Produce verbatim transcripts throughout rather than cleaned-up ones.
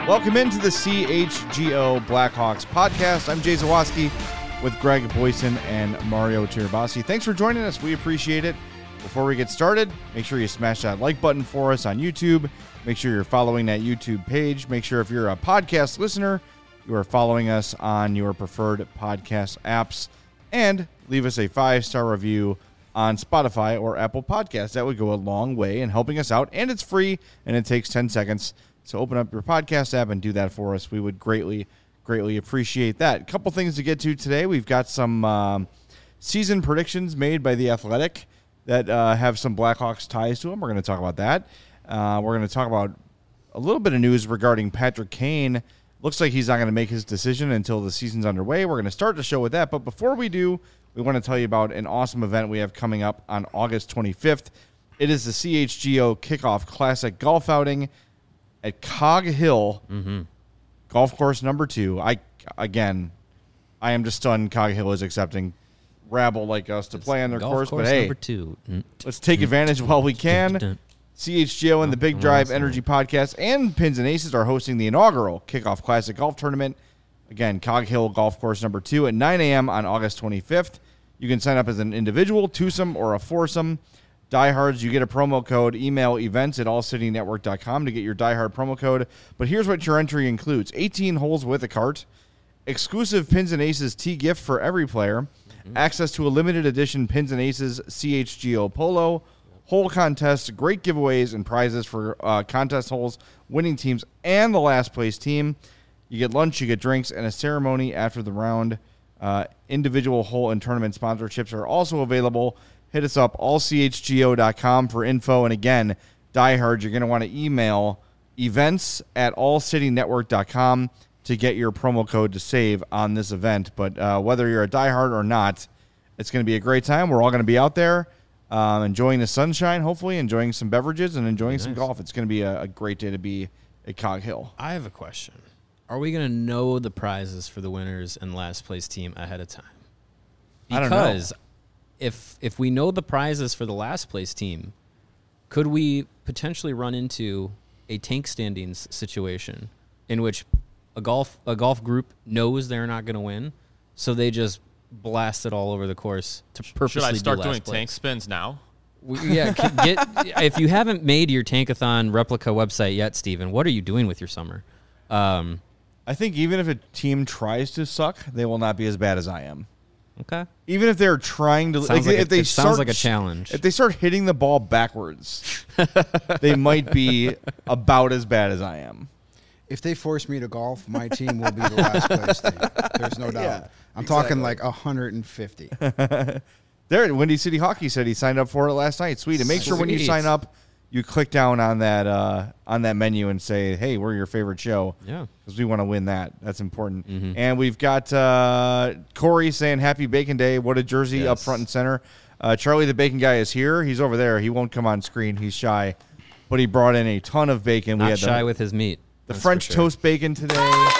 Welcome into the C H G O Blackhawks podcast. I'm Jay Zawaski with Greg Boyson and Mario Tirabassi. Thanks for joining us. We appreciate it. Before we get started, make sure you smash that like button for us on YouTube. Make sure you're following that YouTube page. Make sure if you're a podcast listener, you are following us on your preferred podcast apps. And leave us a five-star review on Spotify or Apple Podcasts. That would go a long way in helping us out. And it's free, and it takes ten seconds. So open up your podcast app and do that for us. We would greatly, greatly appreciate that. A couple things to get to today. We've got some um, season predictions made by The Athletic that uh, have some Blackhawks ties to them. We're going to talk about that. Uh, we're going to talk about a little bit of news regarding Patrick Kane. Looks like he's not going to make his decision until the season's underway. We're going to start the show with that. But before we do, we want to tell you about an awesome event we have coming up on August twenty-fifth. It is the C H G O Kickoff Classic Golf Outing at Cog Hill, mm-hmm. golf course number two. I Again, I am just stunned Cog Hill is accepting rabble like us to it's play on their course. course. But hey, number two. let's take advantage while we can. C H G O and the Big Drive Energy Podcast and Pins and Aces are hosting the inaugural Kickoff Classic Golf Tournament. Again, Cog Hill Golf Course number two at nine a.m. on August twenty-fifth. You can sign up as an individual, twosome, or a foursome. Diehards, you get a promo code. Email events at all city network dot com to get your Diehard promo code. But here's what your entry includes. eighteen holes with a cart, exclusive Pins and Aces tee gift for every player, mm-hmm. access to a limited edition Pins and Aces C H G O Polo, hole contests, great giveaways and prizes for uh, contest holes, winning teams, and the last place team. You get lunch, you get drinks, and a ceremony after the round. Uh, individual hole and tournament sponsorships are also available. Hit us up, all c h g o dot com for info. And again, Diehard, you're going to want to email events at all city network dot com to get your promo code to save on this event. But uh, whether you're a Diehard or not, it's going to be a great time. We're all going to be out there um, enjoying the sunshine, hopefully, enjoying some beverages and enjoying nice. some golf. It's going to be a, a great day to be at Cog Hill. I have a question. Are we going to know the prizes for the winners and last place team ahead of time? Because I don't know. if if we know the prizes for the last place team, could we potentially run into a tank standings situation in which a golf a golf group knows they're not going to win, so they just blast it all over the course to purposely Should I start do doing last place? tank spins now? We, yeah, get if you haven't made your Tankathon replica website yet, Steven, what are you doing with your summer? Um, I think even if a team tries to suck, they will not be as bad as I am. Okay. Even if they're trying to, sounds like, like if a, they it start, sounds like a challenge. If they start hitting the ball backwards, they might be about as bad as I am. If they force me to golf, my team will be the last place team. There's no doubt. Yeah, I'm exactly. talking like one hundred fifty. There at Windy City Hockey said he signed up for it last night. Sweet. And make sure when you Sweet. sign up, you click down on that uh, on that menu and say, "Hey, we're your favorite show." Yeah, because we want to win that. That's important. Mm-hmm. And we've got uh, Corey saying, "Happy Bacon Day." What a jersey Yes. up front and center. Uh, Charlie the Bacon Guy is here. He's over there. He won't come on screen. He's shy, but he brought in a ton of bacon. not we had shy the, with his meat. the That's French for sure. toast bacon today.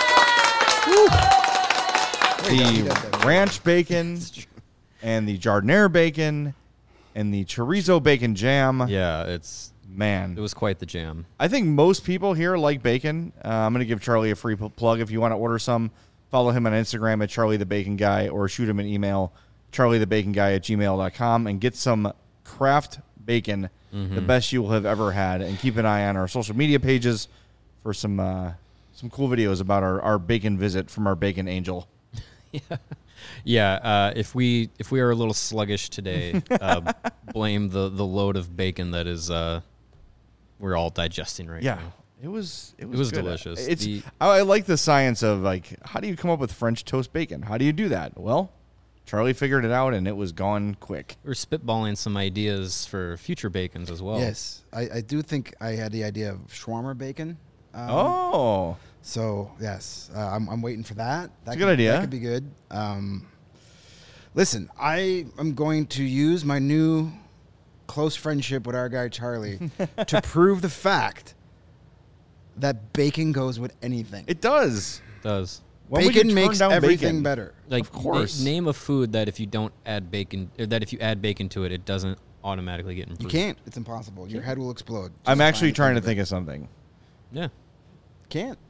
The ranch bacon and the Jardiniere bacon and the chorizo bacon jam. Yeah, it's Man, it was quite the jam. I think most people here like bacon. Uh, I'm going to give Charlie a free p- plug. If you want to order some, follow him on Instagram at Charlie the Bacon Guy or shoot him an email, charlie the bacon guy at gmail dot com, and get some Kraft bacon, Mm-hmm. the best you will have ever had. And keep an eye on our social media pages for some uh, some cool videos about our, our bacon visit from our bacon angel. Yeah, yeah. Uh, if we if we are a little sluggish today, uh, blame the the load of bacon that is uh, we're all digesting right Yeah. now. It was it was, It was good. delicious. It's The- I, I like the science of like how do you come up with French toast bacon? How do you do that? Well, Charlie figured it out and it was gone quick. We're spitballing some ideas for future bacons as well. Yes, I, I do think I had the idea of shawarma bacon. Um, Oh, So, yes, uh, I'm, I'm waiting for that. That It's a could, good idea. That could be good. Um, listen, I am going to use my new close friendship with our guy Charlie to prove the fact that bacon goes with anything. it does. It does. When would you Bacon turn makes down everything bacon? better. Like Of course. na- name a food that if you don't add bacon, or that if you add bacon to it, it doesn't automatically get improved. You can't. It's impossible. Your head will explode. I'm just actually trying trying to think think of something. Yeah. Can't.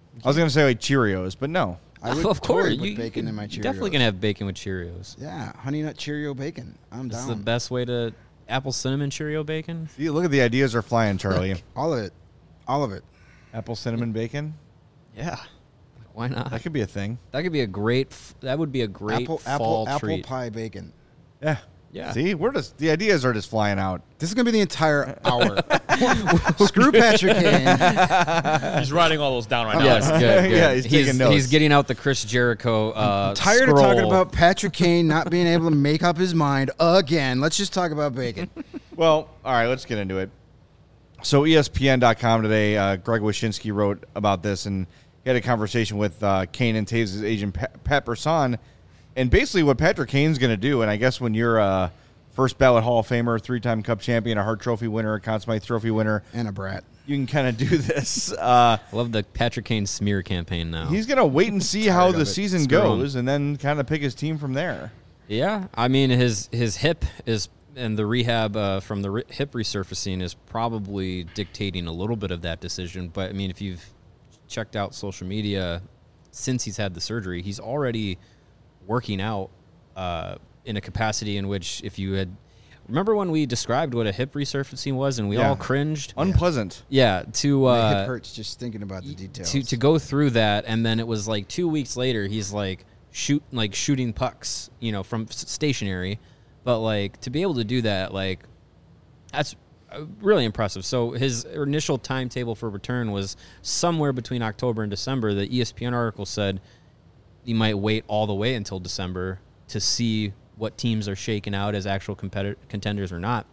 I was gonna say like Cheerios, but no. I would of totally course, put you, bacon you in my Cheerios. definitely gonna have bacon with Cheerios. Yeah, Honey Nut Cheerio bacon. I'm This is down. the best way to apple cinnamon Cheerio bacon. See, look at the ideas are flying, Charlie. All of it. All of it. Apple cinnamon bacon. Yeah, why not? That could be a thing. That could be a great. F- that would be a great Apple fall apple treat. apple pie bacon. Yeah. Yeah. See, we're just the ideas are just flying out. This is gonna be the entire hour. Screw Patrick Kane. He's writing all those down right now. Yes, good, good. Yeah, he's taking notes. He's getting out the Chris Jericho. Uh, I'm tired scroll. of talking about Patrick Kane not being able to make up his mind again. Let's just talk about bacon. Well, all right, let's get into it. So E S P N dot com today, uh, Greg Wyshynski wrote about this, and he had a conversation with uh, Kane and Taves' agent, Pat, Pat Brisson, and basically what Patrick Kane's going to do, and I guess when you're a first ballot Hall of Famer, three-time Cup champion, a Hart Trophy winner, a Conn Smythe Trophy winner, And a brat. you can kind of do this. Uh, I love the Patrick Kane smear campaign now. he's going to wait and see how Tired the of it. season Screw him. goes and then kind of pick his team from there. Yeah, I mean his his hip is and the rehab uh, from the re- hip resurfacing is probably dictating a little bit of that decision. But I mean, if you've checked out social media since he's had the surgery, he's already working out uh, in a capacity in which if you had remember when we described what a hip resurfacing was and we Yeah. all cringed. Unpleasant. Yeah, to My uh, hip hurts just thinking about the details. to to go through that, and then it was like two weeks later, he's like shoot like shooting pucks, you know, from s- stationary, but like to be able to do that, like that's uh, really impressive. So his initial timetable for return was somewhere between October and December. The E S P N article said he might wait all the way until December to see what teams are shaking out as actual competitor contenders or not.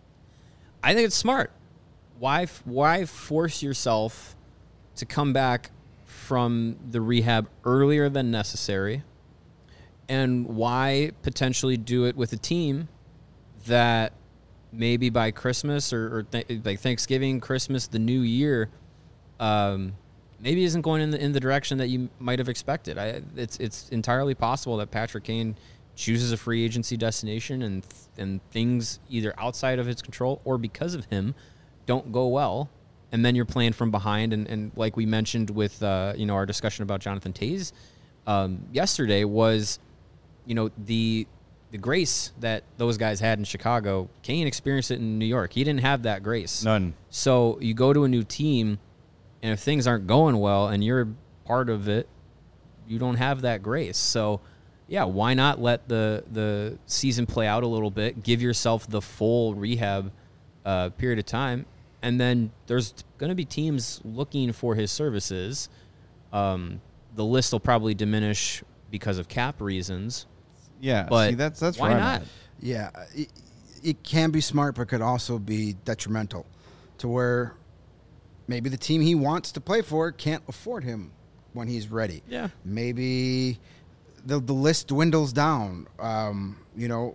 I think it's smart. Why f- why force yourself to come back from the rehab earlier than necessary? And why potentially do it with a team that maybe by Christmas or, or th- like Thanksgiving, Christmas, the new year, um, maybe isn't going in the in the direction that you might have expected. I, it's it's entirely possible that Patrick Kane chooses a free agency destination and th- and things either outside of his control or because of him don't go well, and then you're playing from behind. And, and like we mentioned with uh, you know our discussion about Jonathan Toews um, yesterday was, you know the the grace that those guys had in Chicago. Kane experienced it in New York. He didn't have that grace. None. So you go to a new team, and if things aren't going well and you're part of it, you don't have that grace. So, yeah, why not let the the season play out a little bit, give yourself the full rehab uh, period of time, and then there's going to be teams looking for his services. Um, the list will probably diminish because of cap reasons. Yeah, But see, that's that's why where I'm not? at. Yeah, it, it can be smart, but could also be detrimental to where maybe the team he wants to play for can't afford him when he's ready. Yeah. Maybe the the list dwindles down. Um, you know,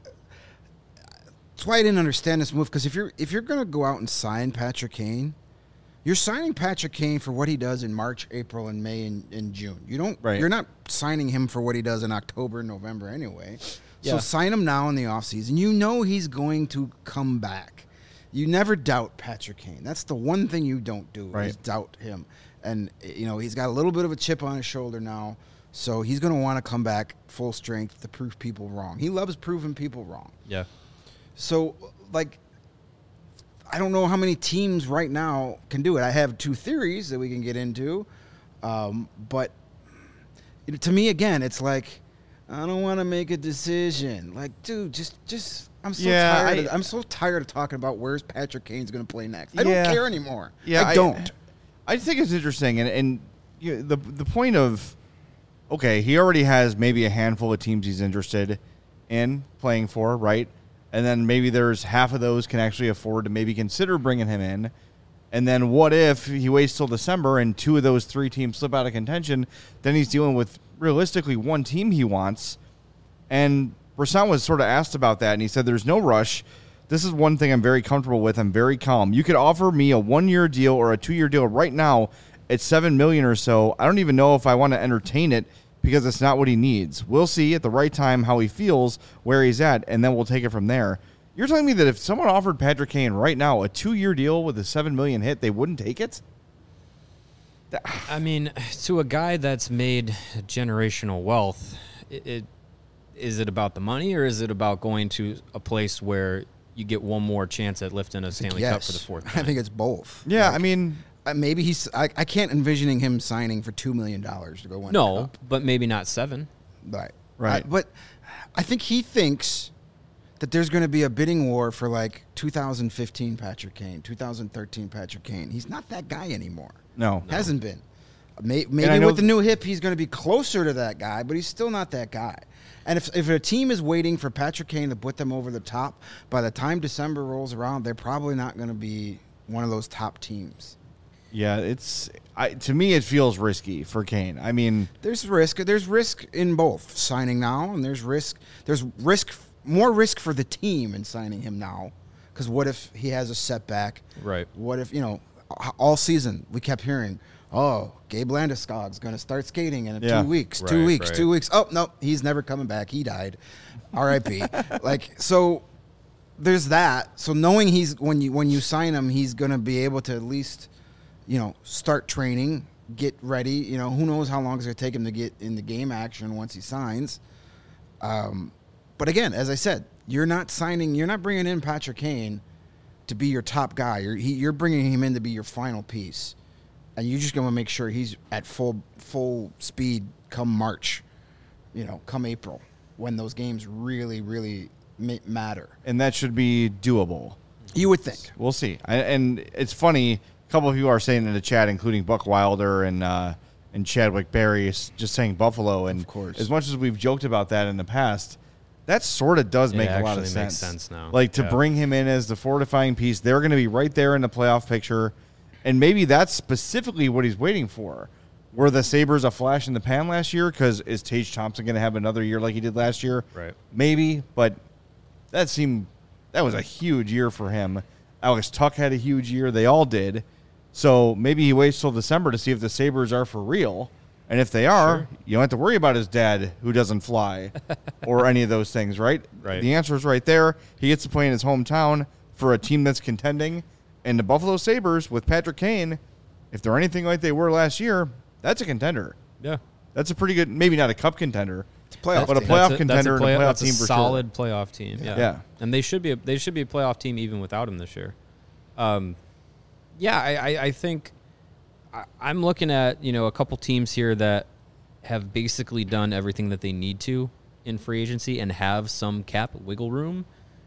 that's why I didn't understand this move, because if you're if you're gonna go out and sign Patrick Kane, you're signing Patrick Kane for what he does in March, April, and May, and, and June. You don't. Right. You're not signing him for what he does in October, November, anyway. So Yeah. sign him now in the offseason. You know he's going to come back. You never doubt Patrick Kane. That's the one thing you don't do. Right. Is doubt him. And you know he's got a little bit of a chip on his shoulder now, so he's going to want to come back full strength to prove people wrong. He loves proving people wrong. Yeah. So, like, I don't know how many teams right now can do it. I have two theories that we can get into, um, but it, to me, again, it's like I don't want to make a decision. Like, dude, just, just, I'm so Yeah, tired. I- of, I'm so tired of talking about where's Patrick Kane's going to play next. I don't Yeah. care anymore. Yeah, I don't. I think it's interesting, and and you know, the the point of okay, he already has maybe a handful of teams he's interested in playing for, right? And then maybe there's half of those can actually afford to maybe consider bringing him in. And then what if he waits till December and two of those three teams slip out of contention? Then he's dealing with realistically one team he wants. And Brisson was sort of asked about that, and he said there's no rush. This is one thing I'm very comfortable with. I'm very calm. You could offer me a one-year deal or a two-year deal right now at seven million dollars or so. I don't even know if I want to entertain it because it's not what he needs. We'll see at the right time how he feels, where he's at, and then we'll take it from there. You're telling me that if someone offered Patrick Kane right now a two-year deal with a seven million dollars hit, they wouldn't take it? I mean, to a guy that's made generational wealth, it, it is it about the money or is it about going to a place where you get one more chance at lifting a Stanley yes. Cup for the fourth time? I think it's both. Yeah, Like, I mean, uh, maybe he's. I, I can't envisioning him signing for two million dollars to go win. no, the Cup. but maybe not seven. Right, Right. I- but I think he thinks that there's going to be a bidding war for like two thousand fifteen Patrick Kane, two thousand thirteen Patrick Kane. He's not that guy anymore. no. Hasn't been. May- I Maybe know with the th- new hip, he's going to be closer to that guy, but he's still not that guy. And if if a team is waiting for Patrick Kane to put them over the top, by the time December rolls around, they're probably not going to be one of those top teams. Yeah, it's I, to me it feels risky for Kane. I mean, There's risk. There's risk in both signing now, and there's risk. There's risk, more risk for the team in signing him now, because what if he has a setback? Right. What if you know, all season we kept hearing, oh, Gabe Landeskog's going to start skating in Yeah. two weeks, two Right, weeks, right. two weeks. Oh no, he's never coming back. He died. R I P Like so, there's that. So knowing he's when you when you sign him, he's going to be able to at least, you know, start training, get ready. You know, who knows how long it's going to take him to get in the game action once he signs. Um, but again, as I said, you're not signing, you're not bringing in Patrick Kane to be your top guy. You're he, you're bringing him in to be your final piece, and you're just going to make sure he's at full full speed come March, you know, come April, when those games really really ma- matter. and that should be doable. You would think. We'll see. I, and it's funny. A couple of people are saying in the chat, including Buck Wilder and uh, and Chadwick Berry, is just saying Buffalo. And Of course. as much as we've joked about that in the past, that sort of does It make a lot of actually sense. makes sense now. Like to Yeah. bring him in as the fortifying piece, they're going to be right there in the playoff picture, and maybe that's specifically what he's waiting for. Were the Sabres a flash in the pan last year? Because is Tage Thompson going to have another year like he did last year? Right. Maybe, but that seemed that was a huge year for him. Alex Tuck had a huge year. They all did. So maybe he waits till December to see if the Sabres are for real. And if they are, Sure. you don't have to worry about his dad who doesn't fly or any of those things, right? Right. The answer is right there. He gets to play in his hometown for a team that's contending. And the Buffalo Sabres with Patrick Kane, if they're anything like they were last year, that's a contender. Yeah. That's a pretty good, maybe not a cup contender, It's a playoff but a team. playoff That's contender that's a, play- and a playoff that's team a for solid playoff team. Yeah. Yeah. And they should be a, they should be a playoff team even without him this year. Um, yeah, I, I, I think I, I'm looking at, you know, a couple teams here that have basically done everything that they need to in free agency and have some cap wiggle room.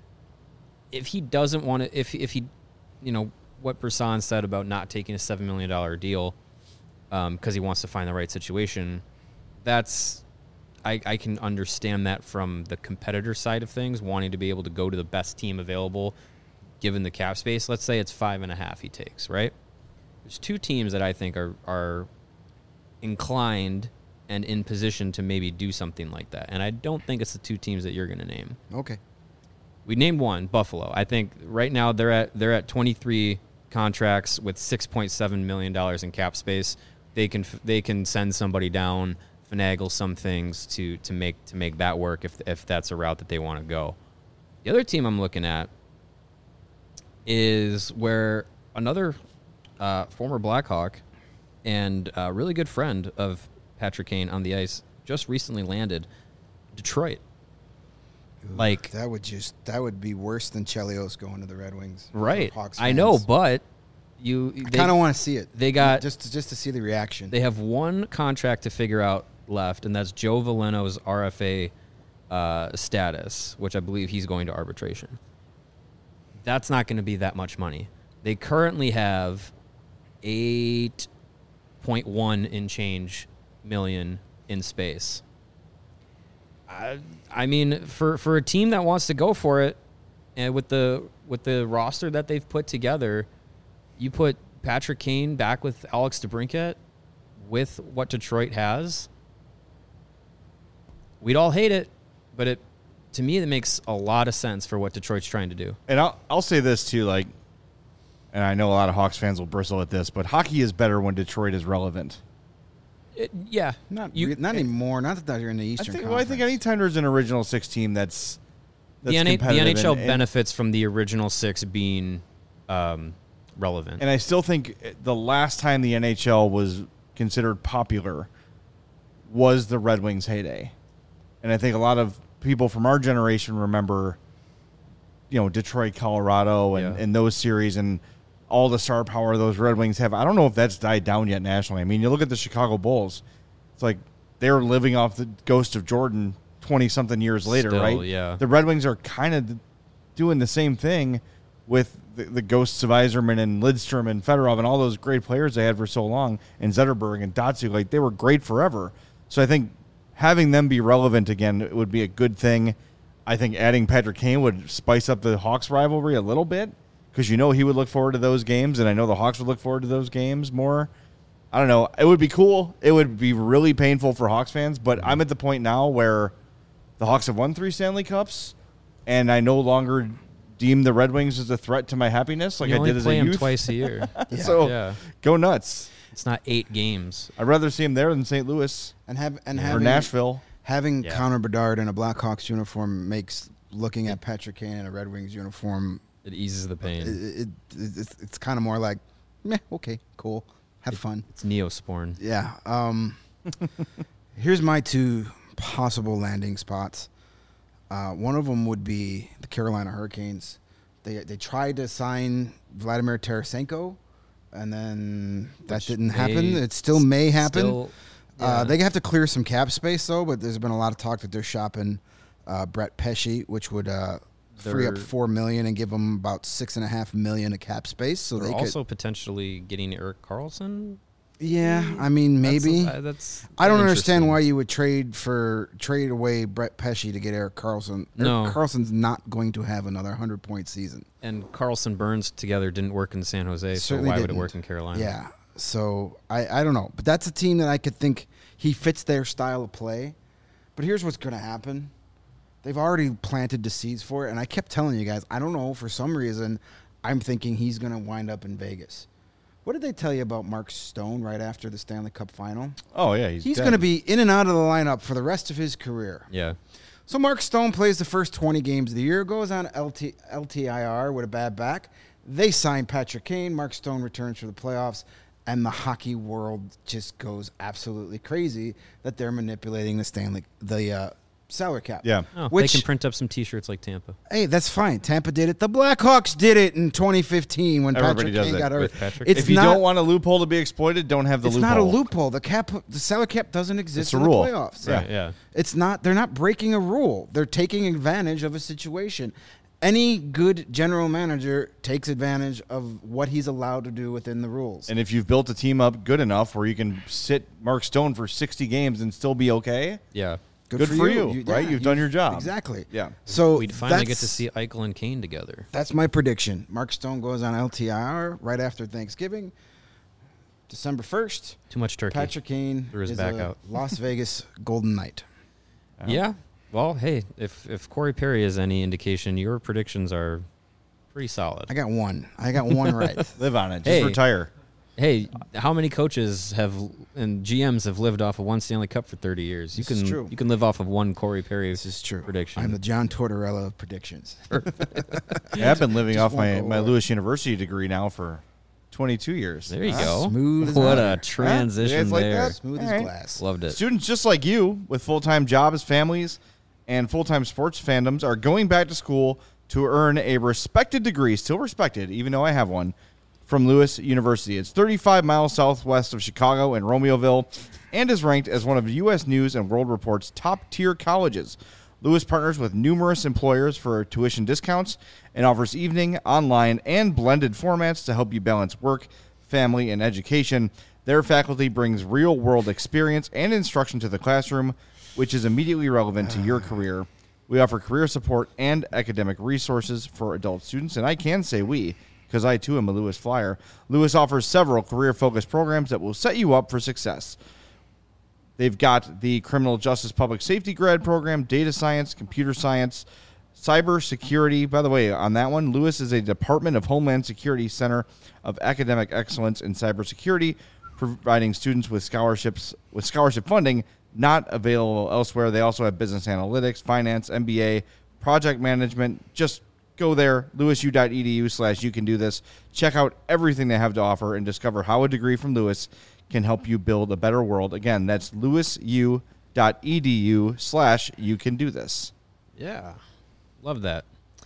If he doesn't want to, if if he, you know, what Brisson said about not taking a seven million dollar deal because um, he wants to find the right situation, that's I, I can understand that from the competitor side of things, wanting to be able to go to the best team available given the cap space. Let's say it's five and a half he takes, right? There's two teams that I think are are inclined and in position to maybe do something like that. And I don't think it's the two teams that you're going to name. Okay. We named one, Buffalo. I think right now they're at they're at twenty-three contracts with six point seven million dollars in cap space. They can they can send somebody down, finagle some things to to make to make that work if if that's a route that they want to go. The other team I'm looking at is where another uh, former Blackhawk and a really good friend of Patrick Kane on the ice just recently landed, Detroit. Like That would just that would be worse than Chelios going to the Red Wings. for right, Hawks I know, fans. but you I they, kind of want to see it. they got- just to, just to see the reaction. they have one contract to figure out left, and that's Joe Veleno's R F A uh, status, which I believe he's going to arbitration. That's not going to be that much money. They currently have eight point one in change million in space. I, I mean, for, for a team that wants to go for it, and with the with the roster that they've put together, you put Patrick Kane back with Alex DeBrincat with what Detroit has. We'd all hate it, but it to me it makes a lot of sense for what Detroit's trying to do. And I'll I'll say this too, like, and I know a lot of Hawks fans will bristle at this, but hockey is better when Detroit is relevant. It, yeah, not you, re- not anymore. Not that they're in the I Eastern think. Well, I think Conference. anytime there's an original six team that's, that's the, N- the competitive N H L and, and, benefits from the original six being um, relevant. and I still think the last time the N H L was considered popular was the Red Wings' heyday. And I think a lot of people from our generation remember, you know, Detroit, Colorado, and, Yeah. and those series and all the star power those Red Wings have. I don't know if that's died down yet nationally. I mean, you look at the Chicago Bulls. It's like they're living off the ghost of Jordan twenty-something years later, Still, right? yeah. The Red Wings are kind of doing the same thing with the, the ghosts of Yzerman and Lidstrom and Fedorov and all those great players they had for so long, and Zetterberg and Datsuk. Like, they were great forever. So I think having them be relevant again would be a good thing. I think adding Patrick Kane would spice up the Hawks rivalry a little bit, because you know he would look forward to those games, and I know the Hawks would look forward to those games more. I don't know. It would be cool. It would be really painful for Hawks fans, but I'm at the point now where the Hawks have won three Stanley Cups, and I no longer deem the Red Wings as a threat to my happiness like You I only did as play a them youth. twice a year. So Yeah. go nuts. It's not eight games. I'd rather see him there than Saint Louis And have and or having Nashville. having Yeah. Connor Bedard in a Blackhawks uniform makes looking at Patrick Kane in a Red Wings uniform. It eases the It, pain. it, it, it's it's kind of more like, meh, okay, cool, have fun. It's Neosporin. Yeah. Um, here's my two possible landing spots. Uh, one of them would be the Carolina Hurricanes. They they tried to sign Vladimir Tarasenko, and then that Which didn't may happen. It still may happen. Still, Uh, yeah. they have to clear some cap space, though, but there's been a lot of talk that they're shopping uh, Brett Pesci, which would uh, free up They're- four million dollars and give them about six and a half million dollars of cap space. So They're they also could, potentially getting Eric Carlson. yeah, I mean, maybe. That's, uh, that's I don't understand interesting. why you would trade for trade away Brett Pesci to get Eric Carlson. No. Eric Carlson's not going to have another hundred point season. And Carlson Burns together didn't work in San Jose, Certainly so why would didn't. it work in Carolina? Yeah. So I, I don't know. But that's a team that I could think he fits their style of play. But here's what's going to happen. They've already planted the seeds for it. And I kept telling you guys, I don't know, for some reason, I'm thinking he's going to wind up in Vegas. What did they tell you about Mark Stone right after the Stanley Cup final? Oh, yeah. He's, He's dead. going to be in and out of the lineup for the rest of his career. Yeah. So Mark Stone plays the first twenty games of the year, goes on L T, L T I R with a bad back. They sign Patrick Kane. Mark Stone returns for the playoffs, and the hockey world just goes absolutely crazy that they're manipulating the Stanley the uh, salary cap. Yeah. Oh, Which- they can print up some T-shirts like Tampa. Hey, that's fine. Tampa did it. The Blackhawks did it in twenty fifteen when Everybody Patrick does Kane it got hurt. with Patrick. It's if you not, don't want a loophole to be exploited, don't have the it's loophole. not a loophole. The cap, the salary cap doesn't exist It's a in rule. the playoffs. Yeah. Right, yeah. It's not. They're not breaking a rule. They're taking advantage of a situation. Any good general manager takes advantage of what he's allowed to do within the rules. And if you've built a team up good enough where you can sit Mark Stone for sixty games and still be okay, Yeah. good for you, right? You've done your job. Exactly. Yeah. So We'd finally get that's- to see Eichel and Kane together. That's my prediction. Mark Stone goes on L T I R right after Thanksgiving, December first. Too much turkey. Patrick Kane Threw his is back a out. Las Vegas Golden Knight. Yeah. Well, hey, if if Corey Perry is any indication, your predictions are pretty solid. I got one. I got one right. Live on it. Just Hey. retire. Hey, how many coaches have and G Ms have lived off of one Stanley Cup for thirty years? You This is can true. you can live off of one Corey Perry This is true. prediction. I'm the John Tortorella of predictions. Yeah, I've been living Just off my, won't go my away. Lewis University degree now for twenty-two years. There you Huh? go. Smooth as What butter. a transition You guys like there. that? Smooth All as right. glass. Loved it. Students just like you with full-time jobs, families, and full-time sports fandoms are going back to school to earn a respected degree, still respected, even though I have one, from Lewis University. It's thirty-five miles southwest of Chicago in Romeoville and is ranked as one of U S News and World Report's top-tier colleges. Lewis partners with numerous employers for tuition discounts and offers evening, online, and blended formats to help you balance work, family, and education. Their faculty brings real-world experience and instruction to the classroom, which is immediately relevant to your career. We offer career support and academic resources for adult students, and I can say we, because I too am a Lewis Flyer. Lewis offers several career-focused programs that will set you up for success. They've got the criminal justice public safety grad program, data science, computer science, cyber security. By the way, on that one, Lewis is a Department of Homeland Security Center of Academic Excellence in Cybersecurity, providing students with scholarships with scholarship funding not available elsewhere. They also have business analytics, finance, M B A, project management. Just go there, lewisu.edu slash you can do this. Check out everything they have to offer and discover how a degree from Lewis can help you build a better world. Again, that's lewisu.edu slash you can do this. Yeah. Love that.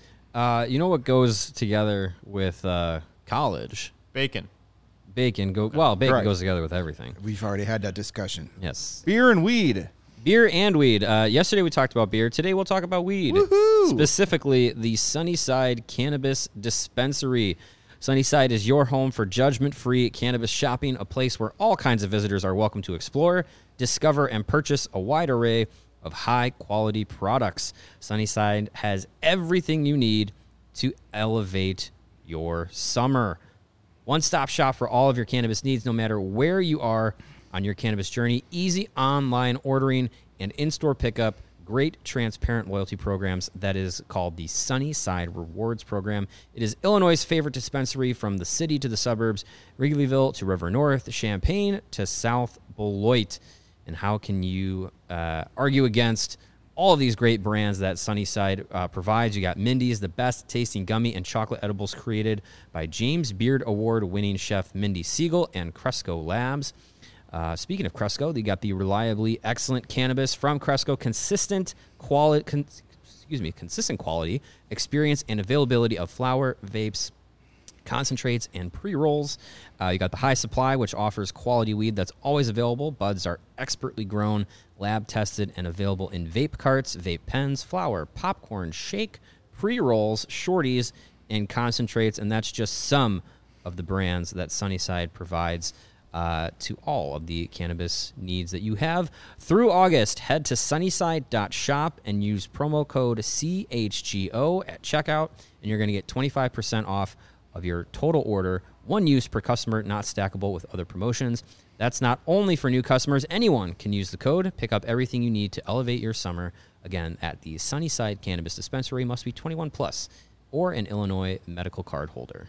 Uh, you know what goes together with uh, college? Bacon. Bacon. Go Well, bacon Right. goes together with everything. We've already had that discussion. Yes. Beer and weed. Beer and weed. Uh, yesterday we talked about beer. Today we'll talk about weed. Woohoo! Specifically, the Sunnyside Cannabis Dispensary. Sunnyside is your home for judgment-free cannabis shopping, a place where all kinds of visitors are welcome to explore, discover, and purchase a wide array of high-quality products. Sunnyside has everything you need to elevate your summer. One-stop shop for all of your cannabis needs, no matter where you are on your cannabis journey. Easy online ordering and in-store pickup. Great transparent loyalty programs that is called the Sunnyside Rewards Program. It is Illinois' favorite dispensary from the city to the suburbs, Wrigleyville to River North, Champaign to South Beloit. And how can you uh, argue against all of these great brands that Sunnyside uh, provides? You got Mindy's, the best tasting gummy and chocolate edibles created by James Beard Award-winning chef Mindy Siegel and Cresco Labs. Uh, speaking of Cresco, they got the reliably excellent cannabis from Cresco, consistent quality, con- excuse me, consistent quality, experience, and availability of flower, vapes, concentrates, and pre-rolls. Uh, you got the High Supply, which offers quality weed that's always available. Buds are expertly grown, lab-tested, and available in vape carts, vape pens, flower, popcorn, shake, pre-rolls, shorties, and concentrates. And that's just some of the brands that Sunnyside provides Uh, to all of the cannabis needs that you have. Through August, head to sunnyside dot shop and use promo code C H G O at checkout, and you're going to get twenty-five percent off of your total order. One use per customer, not stackable with other promotions. That's not only for new customers. Anyone can use the code. Pick up everything you need to elevate your summer. Again, at the Sunnyside Cannabis Dispensary. Must be twenty-one plus or an Illinois medical card holder.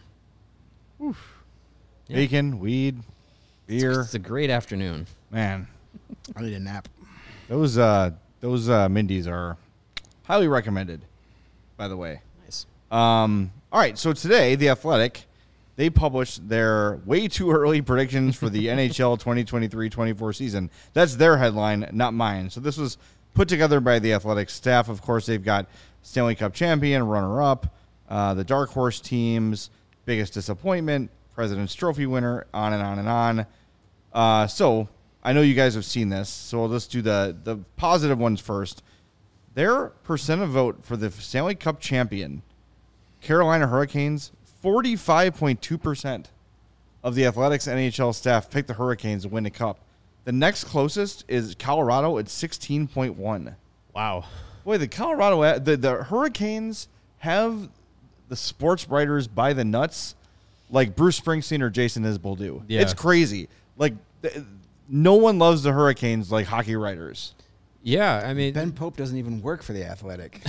Oof. Yeah. Bacon, weed, beer. It's a great afternoon. Man, I need a nap. those uh, those uh, Mindy's are highly recommended, by the way. Nice. Um, all right, so today, The Athletic, they published their way too early predictions for the N H L twenty twenty-three twenty-four season. That's their headline, not mine. So this was put together by The Athletic staff. Of course, they've got Stanley Cup champion, runner-up, uh, the Dark Horse teams, biggest disappointment, President's Trophy winner, on and on and on. Uh, so I know you guys have seen this, so let's do the, the positive ones first. Their percent of vote for the Stanley Cup champion, Carolina Hurricanes, forty-five point two percent of the Athletics N H L staff picked the Hurricanes to win the Cup. The next closest is Colorado at sixteen point one. Wow. Boy, the Colorado, the, the Hurricanes have the sports writers by the nuts like Bruce Springsteen or Jason Isbell do. Yeah. It's crazy. Like, th- no one loves the Hurricanes like hockey writers. Yeah, I mean, Ben Pope doesn't even work for the Athletic.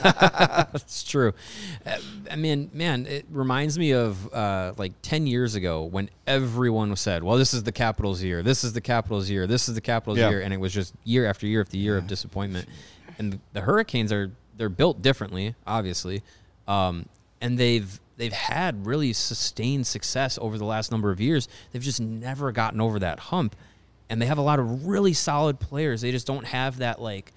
that's true. Uh, I mean, man, it reminds me of uh, like ten years ago when everyone said, well, this is the Capitals' year. This is the Capitals' year. This is the Capitals' Yeah. year. And it was just year after year after year of disappointment. And the Hurricanes are, they're built differently, obviously. Um, and they've, they've had really sustained success over the last number of years. They've just never gotten over that hump. And they have a lot of really solid players. They just don't have that, like,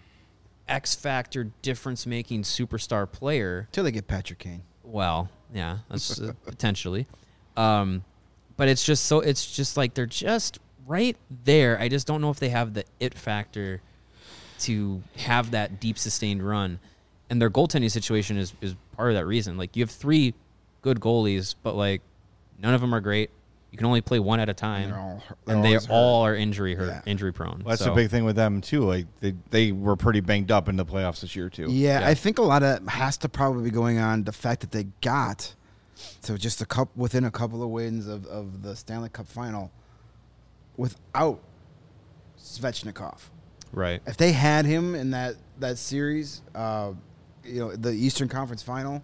X factor difference making superstar player. Till they get Patrick Kane. Well, yeah, that's uh, potentially. Um, but it's just so it's just like they're just right there. I just don't know if they have the it factor to have that deep sustained run. And their goaltending situation is is part of that reason. Like, you have three good goalies, but like none of them are great. You can only play one at a time, And they're all- they're and they always hurt. all are injury hurt, Yeah. injury prone. Well, that's so, the big thing with them, too. Like they, they were pretty banged up in the playoffs this year, too. Yeah, Yeah. I think a lot of has to probably be going on the fact that they got to just a couple within a couple of wins of, of the Stanley Cup final without Svechnikov. right. If they had him in that that series, uh, you know, the Eastern Conference final,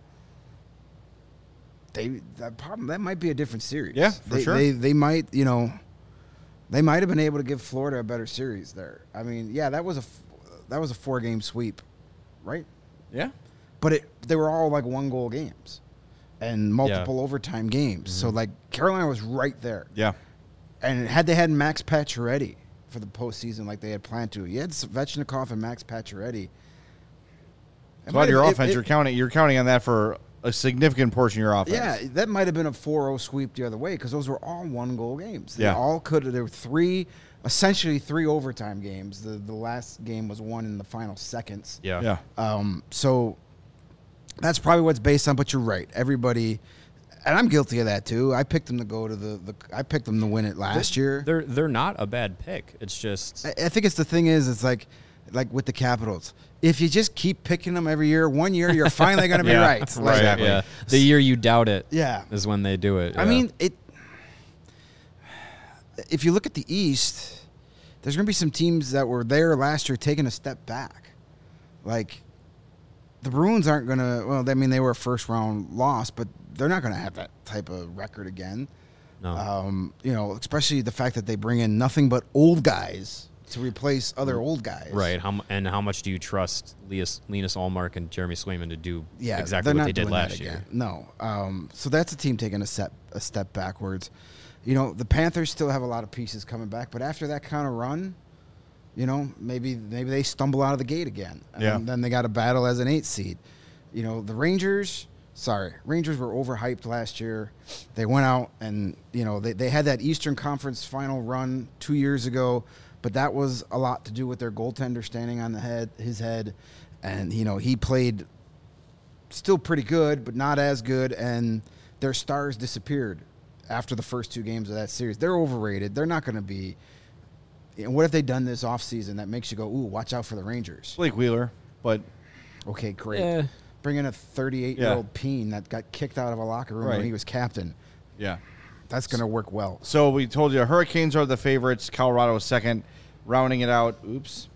they that problem that might be a different series. Yeah, for they, sure. They they might you know, they might have been able to give Florida a better series there. I mean, yeah, that was a f- that was a four game sweep, right? Yeah. But it they were all like one goal games and multiple overtime games. So like Carolina was right there. Yeah. And had they had Max Pacioretty for the postseason like they had planned to, you had Svechnikov and Max Pacioretty. It Glad might your have- offense, it- you're counting you're counting on that for a significant portion of your offense. Yeah, that might have been a four oh sweep the other way because those were all one-goal games. They Yeah. all could have. There were three, essentially three overtime games. The the last game was won in the final seconds. Yeah. Yeah. Um, so that's probably what's based on. But you're right. Everybody, and I'm guilty of that too. I picked them to go to the. the I picked them to win it last year. They're they're not a bad pick. It's just I, I think it's the thing is it's like like with the Capitals. If you just keep picking them every year, one year you're finally going to be Yeah, right. right. Like, Exactly. yeah. The year you doubt it Yeah. is when they do it. I yeah. mean, it. If you look at the East, there's going to be some teams that were there last year taking a step back. Like, the Bruins aren't going to. Well, I mean, they were a first round loss, but they're not going to have that type of record again. no. Um, you know, especially the fact that they bring in nothing but old guys to replace other old guys. Right. How mu- and how much do you trust Linus, Linus Allmark and Jeremy Swayman to do Yeah, exactly they're what not they did doing that last year? again. No. Um, so that's a team taking a step a step backwards. You know, the Panthers still have a lot of pieces coming back, but after that kind of run, you know, maybe maybe they stumble out of the gate again. And Yeah. then they got a battle as an eighth seed. You know, the Rangers, sorry, Rangers were overhyped last year. They went out and, you know, they, they had that Eastern Conference final run two years ago, but that was a lot to do with their goaltender standing on the head, his head. And, you know, he played still pretty good, but not as good, and their stars disappeared after the first two games of that series. They're overrated. They're not going to be. You know, what have they done this offseason that makes you go, ooh, watch out for the Rangers? Blake Wheeler, but Okay, great. Yeah. Bring in a thirty-eight-year-old Yeah. Peen that got kicked out of a locker room Right. when he was captain. yeah. That's going to work well. So we told you Hurricanes are the favorites. Colorado is second. Rounding it out, oops,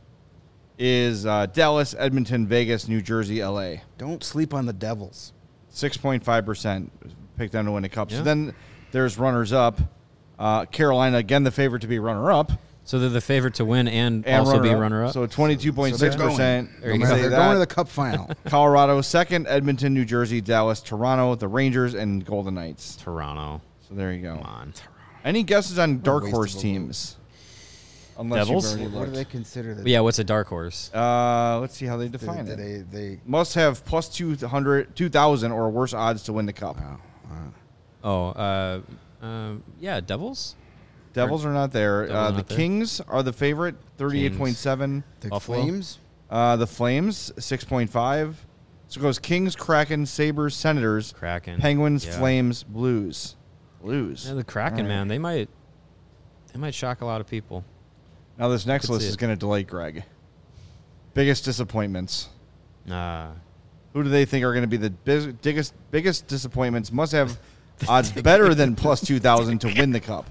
is uh, Dallas, Edmonton, Vegas, New Jersey, L A. Don't sleep on the Devils. six point five percent picked them to win a cup. So Yeah. then there's runners-up. Uh, Carolina, again, the favorite to be runner-up. So they're the favorite to win and, And also be runner-up. runner-up. So twenty-two point six percent. So There you they're, go. they're going to the Cup final. Colorado, second. Edmonton, New Jersey, Dallas, Toronto, the Rangers, and Golden Knights. Toronto. So there you go. Come on. Any guesses on dark waste horse of a teams? Unless Devils? you've already What do they looked. consider the But yeah, what's a dark horse? Uh, let's see how they do, define do it. they, they, Must have plus two hundred, two thousand or worse odds to win the cup. wow. wow. Oh, uh, um, yeah, Devils? Devils are not there. Devils Uh, are the not there. Kings are the favorite, thirty-eight point seven. The Buffalo? Flames? Uh, the Flames, six point five. So it goes Kings, Kraken, Sabres, Senators, Kraken. Penguins, Yeah. Flames, Blues. Blues. Yeah, the Kraken, All right. man, they might they might shock a lot of people. Now this next could list see is it. going to delight Greg. Biggest disappointments. Uh, Who do they think are going to be the biz- biggest biggest disappointments? Must have odds better than plus two thousand to win the cup.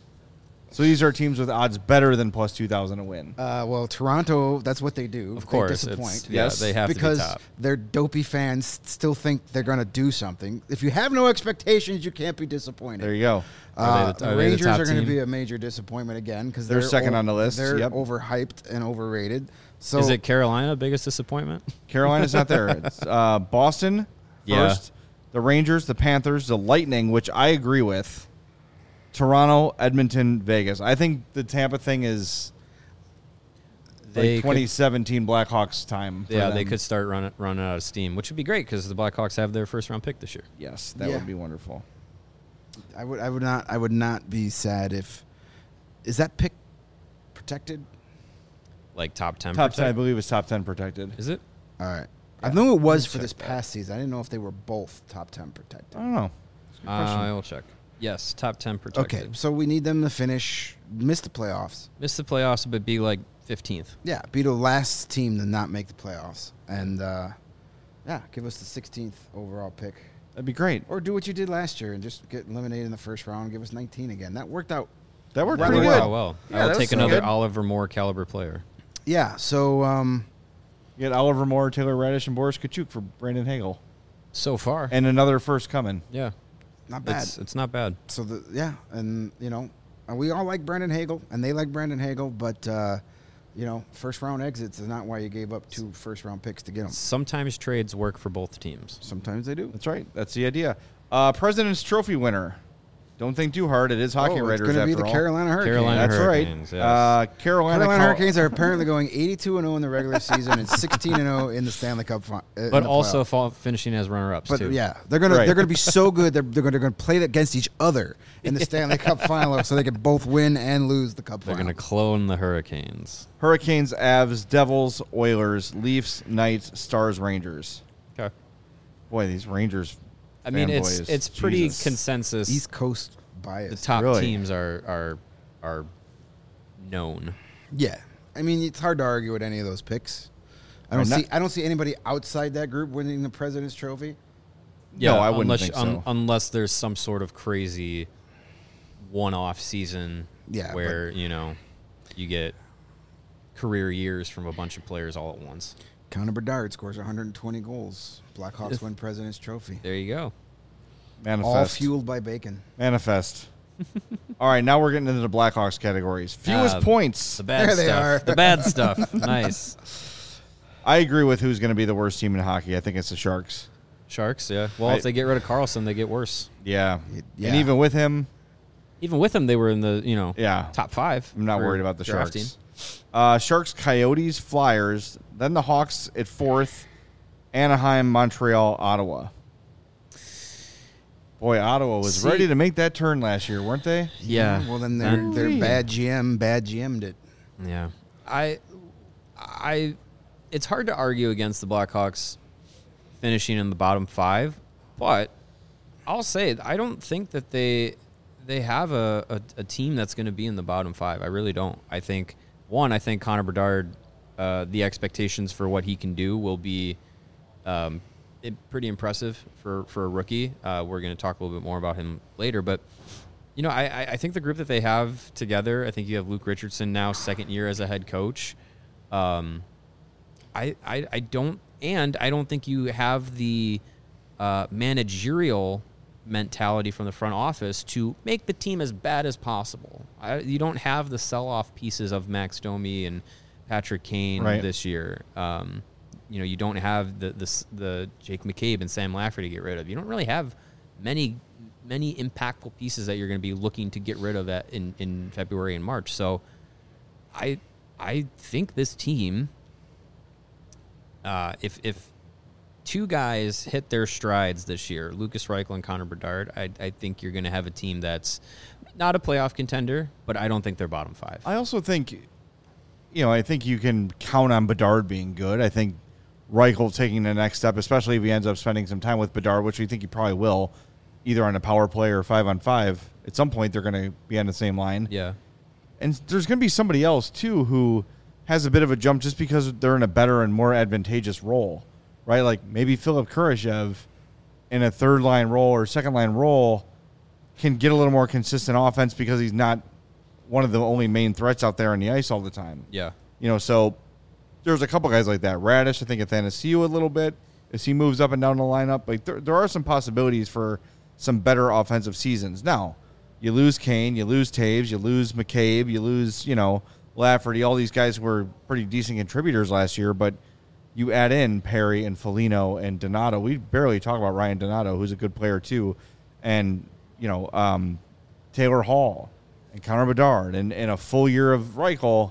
So these are teams with odds better than plus two thousand to win. Uh, well, Toronto, that's what they do. Of They course, disappoint. it's- yeah, Yes, they have because to be top. their dopey fans still think they're going to do something. If you have no expectations, you can't be disappointed. There you go. Are Uh, they the- the are they the Rangers top are going to team? be a major disappointment again because They're second on the list, They're yep. overhyped and overrated. So Is it Carolina biggest disappointment? Carolina's not there. It's uh, Boston Yeah. first, the Rangers, the Panthers, the Lightning, which I agree with. Toronto, Edmonton, Vegas. I think the Tampa thing is They like could- twenty seventeen Blackhawks time. for Yeah, they them. could start running running out of steam, which would be great because the Blackhawks have their first round pick this year. Yes, that Yeah. would be wonderful. I would I would not I would not be sad if is that pick protected? Like top ten. Top ten, I protect- believe, is top ten protected. Is it? All right. Yeah, I know it was let me for check this that. past season. I didn't know if they were both top ten protected. I don't know. That's a good Uh, question. I will check. Yes, top ten protected. Okay, so we need them to finish, miss the playoffs. Miss the playoffs, but be like fifteenth. Yeah, be the last team to not make the playoffs, and uh, yeah, give us the sixteenth overall pick, That'd be great. or do what you did last year and just get eliminated in the first round. And give us nineteen again. That worked out. That worked That pretty worked good. out well. Yeah, I that will was take so another good. Oliver Moore caliber player. Yeah. So um, You get Oliver Moore, Taylor Radish, and Boris Kachuk for Brandon Hagel, So far, and another first coming. yeah, not bad. it's it's not bad. So the yeah, and you know, uh, we all like Brandon Hagel, and they like Brandon Hagel, but uh, you know, first round exits is not why you gave up two first round picks to get them. Sometimes trades work for both teams. Sometimes they do. That's right. That's the idea. Uh, President's Trophy winner. Don't think too hard. It is Hockey Oh, it's Writers going to be after the all. Carolina Hurricanes. Carolina That's Hurricanes, right. yes. Uh, Carolina, Carolina Col- Hurricanes are apparently going eighty-two and oh in the regular season and sixteen and oh in the Stanley Cup. Fi- uh, in But the also playoff. fall, finishing as runner-ups But too. yeah, they're gonna Right. they're gonna be so good. They're they're gonna, they're gonna play against each other in the Stanley Cup final, so they can both win and lose the Cup They're final. going to clone the Hurricanes. Hurricanes, Avs, Devils, Oilers, Leafs, Knights, Stars, Rangers. Okay. Boy, these Rangers. I mean, it's fanboys, it's pretty Jesus. consensus. East Coast the bias. top Really? teams are are are known. Yeah, I mean it's hard to argue with any of those picks. I don't Right, see not- I don't see anybody outside that group winning the President's Trophy. No, I wouldn't unless, think un- so. unless there's some sort of crazy one-off season Yeah, where, you know, you get career years from a bunch of players all at once. Connor Bedard scores one hundred twenty goals. Blackhawks win President's Trophy. There you go. Manifest. All fueled by bacon. Manifest. All right, now we're getting into the Blackhawks categories. Fewest Uh, points. The bad There they stuff. are. The bad stuff. Nice. I agree with who's going to be the worst team in hockey. I think it's the Sharks. Sharks, yeah. Well, I- if they get rid of Carlson, they get worse. Yeah. Y- And yeah. even with him, Even with them, they were in the, you know, yeah. top five. I'm not for worried about the drafting. Sharks. Uh, Sharks, Coyotes, Flyers, then the Hawks at fourth, Anaheim, Montreal, Ottawa. Boy, Ottawa was See- ready to make that turn last year, weren't they? Yeah. Well, then their And- their bad G M bad G M'd it. Yeah. I I it's hard to argue against the Blackhawks finishing in the bottom five, but I'll say I don't think that they they have a, a, a team that's going to be in the bottom five. I really don't. I think one, I think Connor Bedard, uh, the expectations for what he can do will be um, it, pretty impressive for, for a rookie. Uh, we're going to talk a little bit more about him later, but you know, I, I- I think the group that they have together, I think you have Luke Richardson now, second year as a head coach. Um, I, I, I don't, and I don't think you have the uh, managerial mentality from the front office to make the team as bad as possible. I, you don't have the sell-off pieces of Max Domi and Patrick Kane Right. this year. Um, you know, you don't have the, the the Jake McCabe and Sam Lafferty to get rid of. You don't really have many many impactful pieces that you're going to be looking to get rid of at, in, in February and March. So I I think this team, uh, if if two guys hit their strides this year, Lucas Reichel and Connor Bedard, I, I think you're going to have a team that's not a playoff contender, but I don't think they're bottom five. I also think, you know, I think you can count on Bedard being good. I think Reichel taking the next step, especially if he ends up spending some time with Bedard, which we think he probably will, either on a power play or five on five. At some point, they're going to be on the same line. Yeah. And there's going to be somebody else, too, who has a bit of a jump just because they're in a better and more advantageous role, right? Like maybe Philip Kurashev in a third-line role or second-line role can get a little more consistent offense because he's not one of the only main threats out there on the ice all the time. Yeah. You know, so there's a couple guys like that. Radish, I think, Athanasiou a little bit as he moves up and down the lineup. Like there, there are some possibilities for some better offensive seasons. Now, you lose Kane, you lose Taves, you lose McCabe, you lose, you know, Lafferty. All these guys were pretty decent contributors last year, but you add in Perry and Foligno and Donato. We barely talk about Ryan Donato, who's a good player too, and you know um, Taylor Hall and Connor Bedard, and, and a full year of Reichel.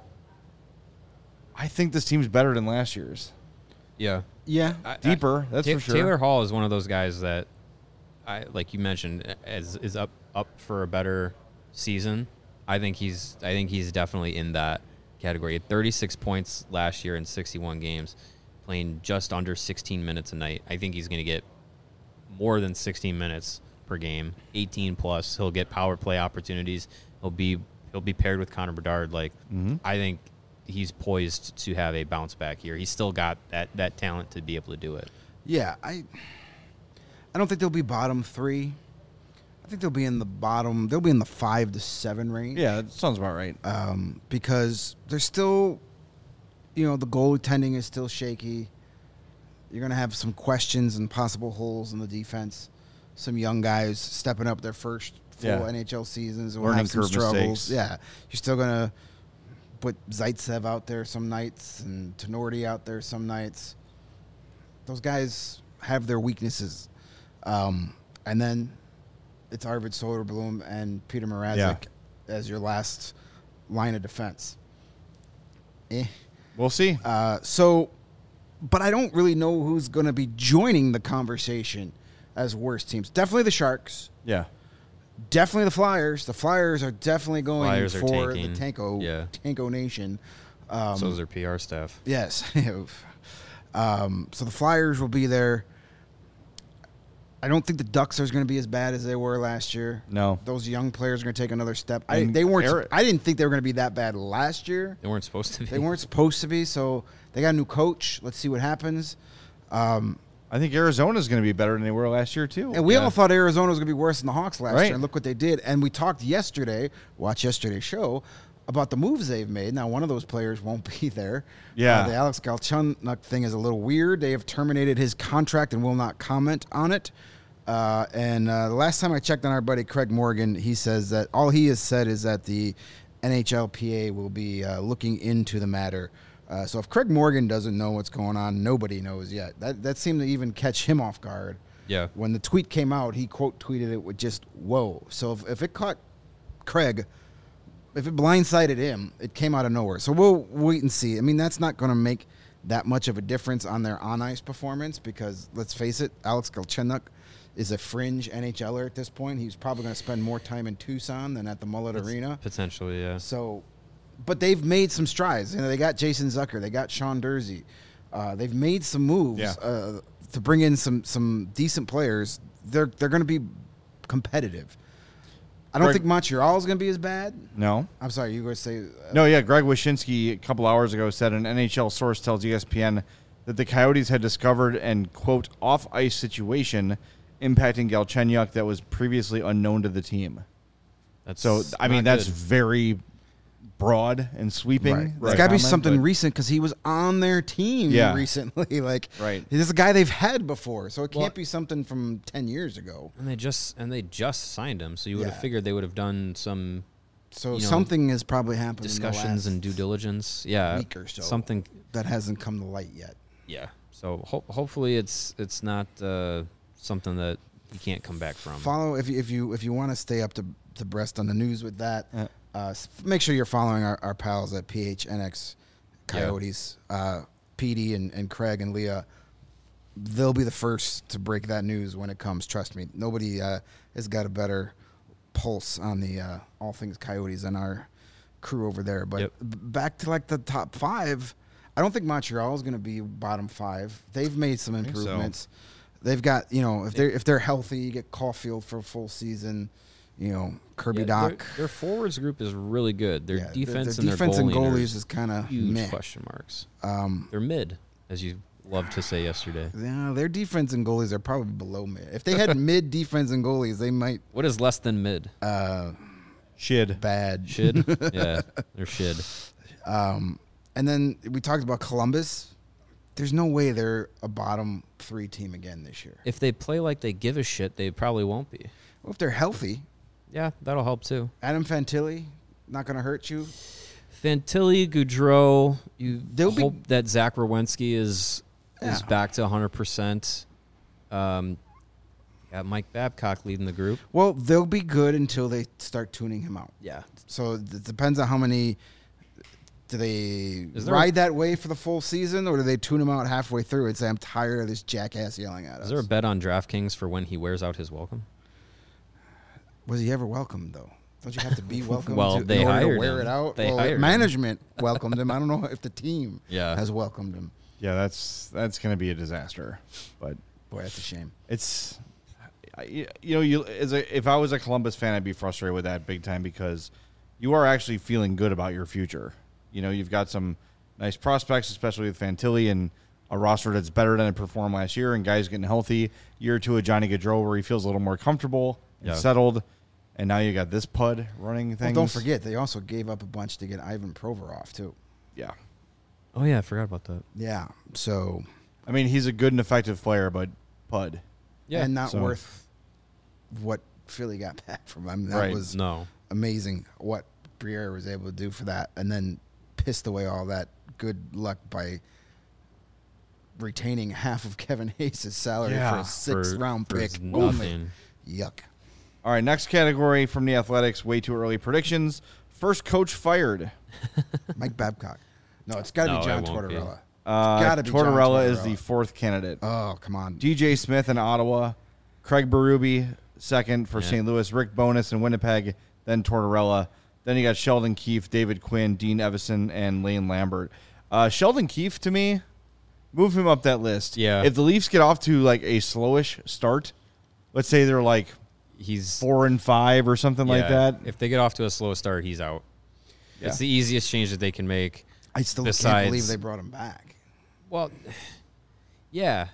I think this team's better than last year's. Yeah. Yeah. I- Deeper, that's Ta- for sure. Taylor Hall is one of those guys that, I like you mentioned, is is up up for a better season. I think he's I think he's definitely in that category. He had thirty-six points last year in sixty-one games, playing just under sixteen minutes a night. I think he's going to get more than sixteen minutes per game, eighteen plus. He'll get power play opportunities. He'll be he'll be paired with Connor Bedard. Like Mhm. I think he's poised to have a bounce back year. He's still got that that talent to be able to do it. Yeah, I I don't think they'll be bottom three. I think they'll be in the bottom. They'll be in the five to seven range. Yeah, that sounds about right. Um, because they're still, you know, the goaltending is still shaky. You're gonna have some questions and possible holes in the defense. Some young guys stepping up their first full Yeah. N H L seasons will Learning have some curve struggles. mistakes. Yeah, you're still gonna put Zaitsev out there some nights and Tenorti out there some nights. Those guys have their weaknesses, um, and then it's Arvid Soderblom and Peter Mrazek Yeah. as your last line of defense. Eh. We'll see. Uh, so, but I don't really know who's going to be joining the conversation as worst teams. Definitely the Sharks. Yeah. Definitely the Flyers. The Flyers are definitely going Flyers are for tanking. the Tanko Yeah. Tanko Nation. Um, so is their P R staff. Yes. um, so the Flyers will be there. I don't think the Ducks are going to be as bad as they were last year. No. Those young players are going to take another step. I, And they weren't. Eric- I didn't think they were going to be that bad last year. They weren't supposed to be. They weren't supposed to be. So they got a new coach. Let's see what happens. Um, I think Arizona's going to be better than they were last year, too. and we Yeah. all thought Arizona was going to be worse than the Hawks last Right. year. And look what they did. And we talked yesterday, watch yesterday's show, about the moves they've made. Now, one of those players won't be there. Yeah. Uh, the Alex Galchenyuk thing is a little weird. They have terminated his contract and will not comment on it. Uh, and uh, the last time I checked on our buddy Craig Morgan, he says that all he has said is that the N H L P A will be uh, looking into the matter. Uh, so if Craig Morgan doesn't know what's going on, nobody knows yet. That that seemed to even catch him off guard. Yeah. When the tweet came out, he quote tweeted it with just "whoa." So if, if it caught Craig, if it blindsided him, it came out of nowhere. So we'll wait and see. I mean, that's not going to make that much of a difference on their on ice performance because let's face it, Alex Galchenyuk is a fringe NHLer at this point. He's probably going to spend more time in Tucson than at the Mullet That's Arena. Potentially, yeah. So, but they've made some strides. You know, they got Jason Zucker, they got Sean Dursey. Uh, they've made some moves Yeah. uh, to bring in some some decent players. They're they're going to be competitive. I don't Greg- think Montreal is going to be as bad. No. I'm sorry, you were going to say uh, No, yeah. Greg Wyshynski a couple hours ago said an N H L source tells E S P N that the Coyotes had discovered an, quote, off-ice situation impacting Galchenyuk that was previously unknown to the team. That's So, I mean, not that's good. very broad and sweeping. Right. that There's got to be comment, something but- recent because he was on their team Yeah. recently. Like, Right. This is a guy they've had before, so it can't Well- be something from ten years ago. and they just and they just signed him, so you would Yeah. have figured they would have done some So You know, something has probably happened discussions in the last and due diligence. Yeah, week or so. something. that hasn't come to light yet. Yeah. So ho- hopefully it's it's not uh, something that you can't come back from. Follow if you if you if you want to stay up to to breast on the news with that. Yeah. Uh, s- make sure you're following our, our pals at P H N X Coyotes, uh, P D and, and Craig and Leah. They'll be the first to break that news when it comes. Trust me, nobody uh, has got a better pulse on the uh, all things Coyotes than our crew over there. But Yep. b- back to like the top five, I don't think Montreal is going to be bottom five. They've made some think so. improvements. They've got, you know, if they're if they're healthy, you get Caulfield for a full season. You know, Kirby Yeah, Doc. Their, their forwards group is really good. Their Yeah, their- defense their and defense their and goalie goalies is kind of huge meh. question marks. Um, They're mid, as you loved to say yesterday. yeah, their defense and goalies are probably below mid. If they had mid defense and goalies, they might What is less than mid? uh, Shid. bad. Shid? Yeah, they're shid. Um, and then we talked about Columbus. There's no way they're a bottom three team again this year. If they play like they give a shit, they probably won't be. Well, if they're healthy, Yeah, that'll help too. Adam Fantilli not going to hurt you. Fantilli, Goudreau, you They'll be- hope that Zach Rowensky is is Yeah. back to one hundred percent. Um, got Mike Babcock leading the group. Well, they'll be good until they start tuning him out. Yeah. So it depends on how many. Do they Is there ride that way for the full season, or do they tune him out halfway through and say, "I'm tired of this jackass yelling at us"? Is there a bet on DraftKings for when he wears out his welcome? Was he ever welcomed though? Don't you have to be welcomed? Well, to, they in order hired to wear him. it out. They well, hired him. management welcomed him. I don't know if the team Yeah. has welcomed him. Yeah, that's that's going to be a disaster. But Boy, that's a shame. it's, I- you know, you as a, if I was a Columbus fan, I'd be frustrated with that big time because you are actually feeling good about your future. You know, you've got some nice prospects, especially with Fantilli and a roster that's better than it performed last year, and guys getting healthy. Year two of Johnny Gaudreau where he feels a little more comfortable and Yeah. settled, and now you got this Pud running Well, things. don't forget, they also gave up a bunch to get Ivan Provorov too. Yeah, Oh yeah, I forgot about that. Yeah. So I mean he's a good and effective player, but Pud. Yeah. and not so- worth what Philly got back from him. That Right. was No. amazing what Briere was able to do for that, and then pissed away all that good luck by retaining half of Kevin Hayes' salary Yeah, for a sixth For- round for pick. nothing. Only. Yuck. All right, next category from the Athletics, way too early predictions. First coach fired. Mike Babcock. No, it's got to No, be John it won't be. Tortorella. Uh, gotta be John Tortorella is Tortorella. the fourth candidate. Oh, come on. D J Smith in Ottawa, Craig Berube second for Yeah. Saint Louis, Rick Bowness in Winnipeg, then Tortorella. Then you got Sheldon Keefe, David Quinn, Dean Evison, and Lane Lambert. Uh, Sheldon Keefe, to me, move him up that list. Yeah. If the Leafs get off to like a slowish start, let's say they're like He's four and five or something like yeah, that. If they get off to a slow start, he's out. Yeah. It's the easiest change that they can make. I still Besides- can't believe they brought him back. Well, yeah.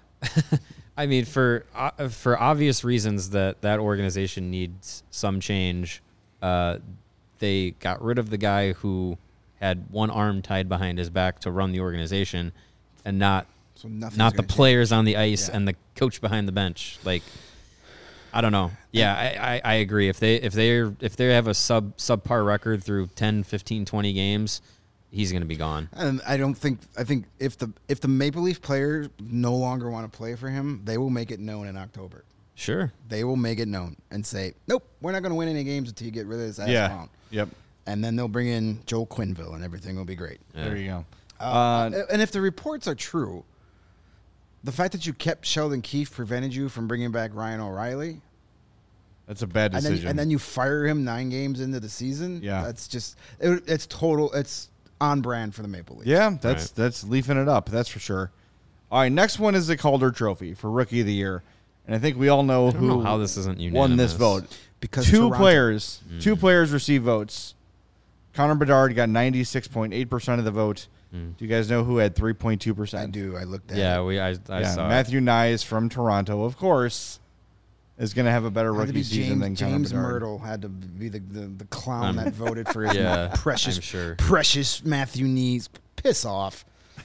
I mean, for uh, for obvious reasons that that organization needs some change, uh, they got rid of the guy who had one arm tied behind his back to run the organization, and not So nothing's not the gonna change. players on the ice Yeah. and the coach behind the bench. Like, I don't know. Yeah, I, I, I agree. If they if they if they have a sub subpar record through ten, fifteen, twenty games, he's going to be gone. And I don't think I think if the if the Maple Leaf players no longer want to play for him, they will make it known in October. Sure. They will make it known and say, "Nope, we're not going to win any games until you get rid of this ass Yeah. clown." Yep. And then they'll bring in Joel Quenneville, and everything will be great. Yeah. There you go. Uh, and if the reports are true, the fact that you kept Sheldon Keefe prevented you from bringing back Ryan O'Reilly, That's a bad and decision. then, and then you fire him nine games into the season. Yeah. That's just it, it's total. It's on brand for the Maple Leafs. yeah, that's Right. that's leafing it up. That's for sure. All right, next one is the Calder Trophy for Rookie of the Year, and I think we all know I don't who know how this isn't won this unanimous. vote. Because two Toronto- players, Mm. two players received votes. Connor Bedard got ninety-six point eight percent of the vote. Mm. Do you guys know who had three point two I percent? do. I looked at Yeah, it. we I, I Yeah, saw it. Matthew Nyes from Toronto, of course, is going to have a better Had to rookie be season than James, Connor James Bedard. Myrtle had to be the, the, the clown Um, that voted for his yeah, precious, I'm sure. precious Matthew Knees. Piss off.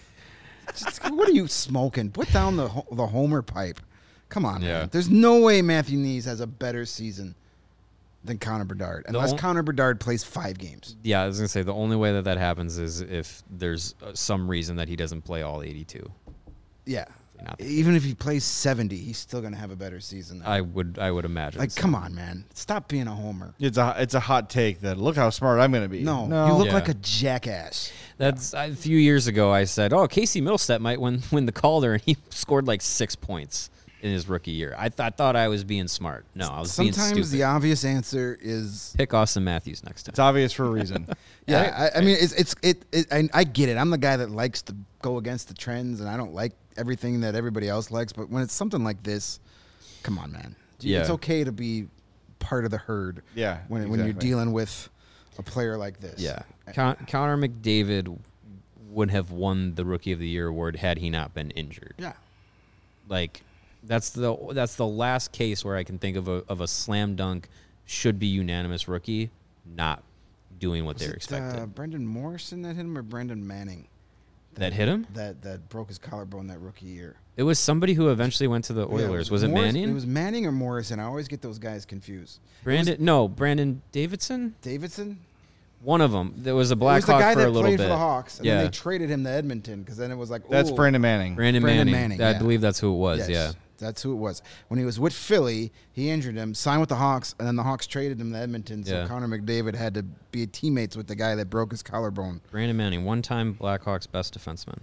Just- what are you smoking? Put down the ho- the Homer pipe. Come on, Yeah. man. There's no way Matthew Knees has a better season than Connor Bedard, unless on- Connor Bedard plays five games. Yeah, I was gonna say the only way that that happens is if there's uh, some reason that he doesn't play all eighty-two. Yeah. Not- Even if he plays seventy, he's still going to have a better season. Than I would I would imagine. like, so. come on, man. Stop being a homer. It's a it's a hot take that look how smart I'm going to be. No, no, you look Yeah. like a jackass. That's a few years ago. I said, "Oh, Casey Middlestat might win win the Calder," and he scored like six points in his rookie year. I, th- I thought I was being smart. No, I was being Sometimes stupid. the obvious answer is Pick Austin Matthews next time. it's obvious for a reason. yeah. I, I mean, it's it's it. it I, I get it. I'm the guy that likes to go against the trends, and I don't like everything that everybody else likes. But when it's something like this, come on, man. Yeah. It's okay to be part of the herd. Yeah, When when you're exactly. dealing with a player like this. Yeah, Con- Connor McDavid would have won the Rookie of the Year award had he not been injured. Yeah. Like that's the that's the last case where I can think of a of a slam dunk should be unanimous rookie not doing what Was they're it, expected. Uh, Brendan Morrison that hit him, or Brendan Manning that hit him? that that broke his collarbone that rookie year? It was somebody who eventually went to the Yeah, Oilers. was it Morris- Manning? It was Manning or Morrison. I always get those guys confused. Brandon? No, Brandon Davidson. Davidson. One of them. There was a It was Black the Hawk guy for that a little played bit. for the Hawks, and yeah, then they traded him to Edmonton because then it was like, That's ooh, Brandon Manning. Brandon, Brandon Manning. Manning, I yeah. believe that's who it was. Yes, Yeah. that's who it was. When he was with Philly, he injured him, signed with the Hawks, and then the Hawks traded him to Edmonton. So Yeah. Connor McDavid had to be teammates with the guy that broke his collarbone Brandon Manning, one-time Blackhawks best defenseman.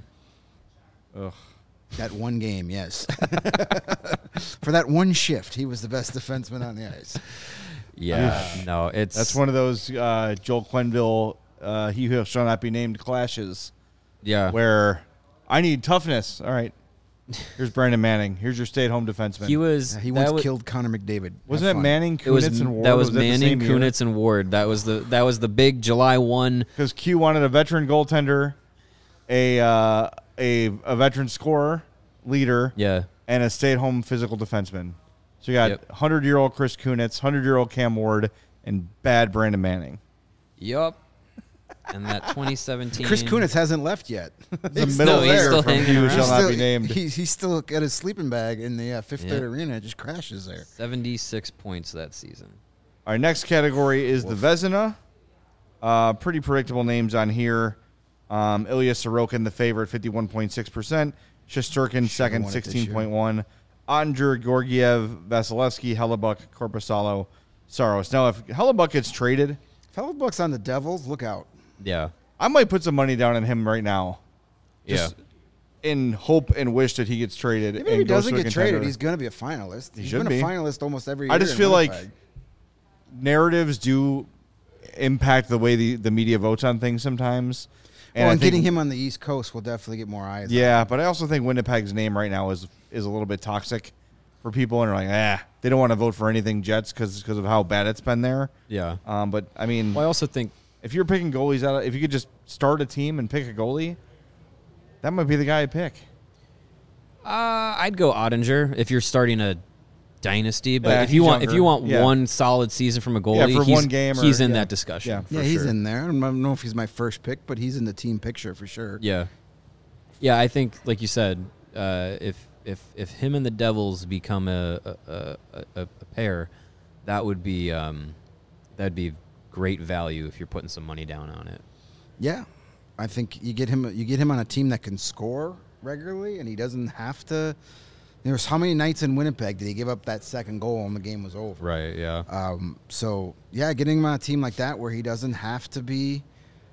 Ugh. that one game. Yes, for that one shift, he was the best defenseman on the ice. Yeah, no, it's That's one of those uh, Joel Quenneville, uh, he who shall not be named clashes yeah. where I need toughness. All right, here's Brandon Manning. Here's your stay-at-home defenseman. he was. Yeah, he that once was, killed Connor McDavid. Wasn't Have it fun. Manning, It was Kunitz, and Ward? that was, that the Manning, same year? Kunitz, and Ward. That was the that was the big July one. Because Q wanted a veteran goaltender, a uh, a a veteran scorer, leader, Yeah, and a stay-at-home physical defenseman. So you got Yep. hundred-year-old Chris Kunitz, hundred-year-old Cam Ward, and bad Brandon Manning. yup. And that twenty seventeen. Chris Kunitz hasn't left yet. The He's middle still- he's there still from hanging he who around. shall not still, be named. He's, he's still got his sleeping bag in the uh, Fifth Yeah. Third Arena. It just crashes there. seventy-six points that season. Our next category is the Vezina. Uh, pretty predictable names on here. Um, Ilya Sorokin, the favorite, fifty-one point six percent. Shesterkin, second, won it this sixteen point one. Ottinger, Georgiev, Vasilevsky, Hellebuck, Korpisalo, Saros. Now, if Hellebuck gets traded, Hellebuck's on the Devils. Look out. Yeah. I might put some money down on him right now. Just Yeah. in hope and wish that he gets traded. Even if and he goes doesn't to a get contender. traded, he's going to be a finalist. He He's should been be. a finalist almost every year. I just in feel like Winnipeg. narratives do impact the way the, the media votes on things sometimes. Well, I and think- getting him on the East Coast will definitely get more eyes. Yeah, but I also think Winnipeg's name right now is is a little bit toxic for people, and they're like, ah, they don't want to vote for anything Jets because of how bad it's been there. Yeah. Um, but I mean, Well, I also think if you're picking goalies out, of, if you could just start a team and pick a goalie, that might be the guy I pick. uh, I'd go Ottinger if you're starting a dynasty. But Yeah, if you he's want, if younger. you want Yeah. one solid season from a goalie, Yeah, for he's, one game or- he's in yeah. that discussion. Yeah. Yeah, for he's sure. in there. I don't know if he's my first pick, but he's in the team picture for sure. Yeah, yeah. I think, like you said, uh, if if if him and the Devils become a a, a, a, a pair, that would be um, that'd be great value if you're putting some money down on it. Yeah, I think you get him. You get him on a team that can score regularly, and he doesn't have to. There was how many nights in Winnipeg did he give up that second goal and the game was over? Right. Yeah. Um, so yeah, getting him on a team like that where he doesn't have to be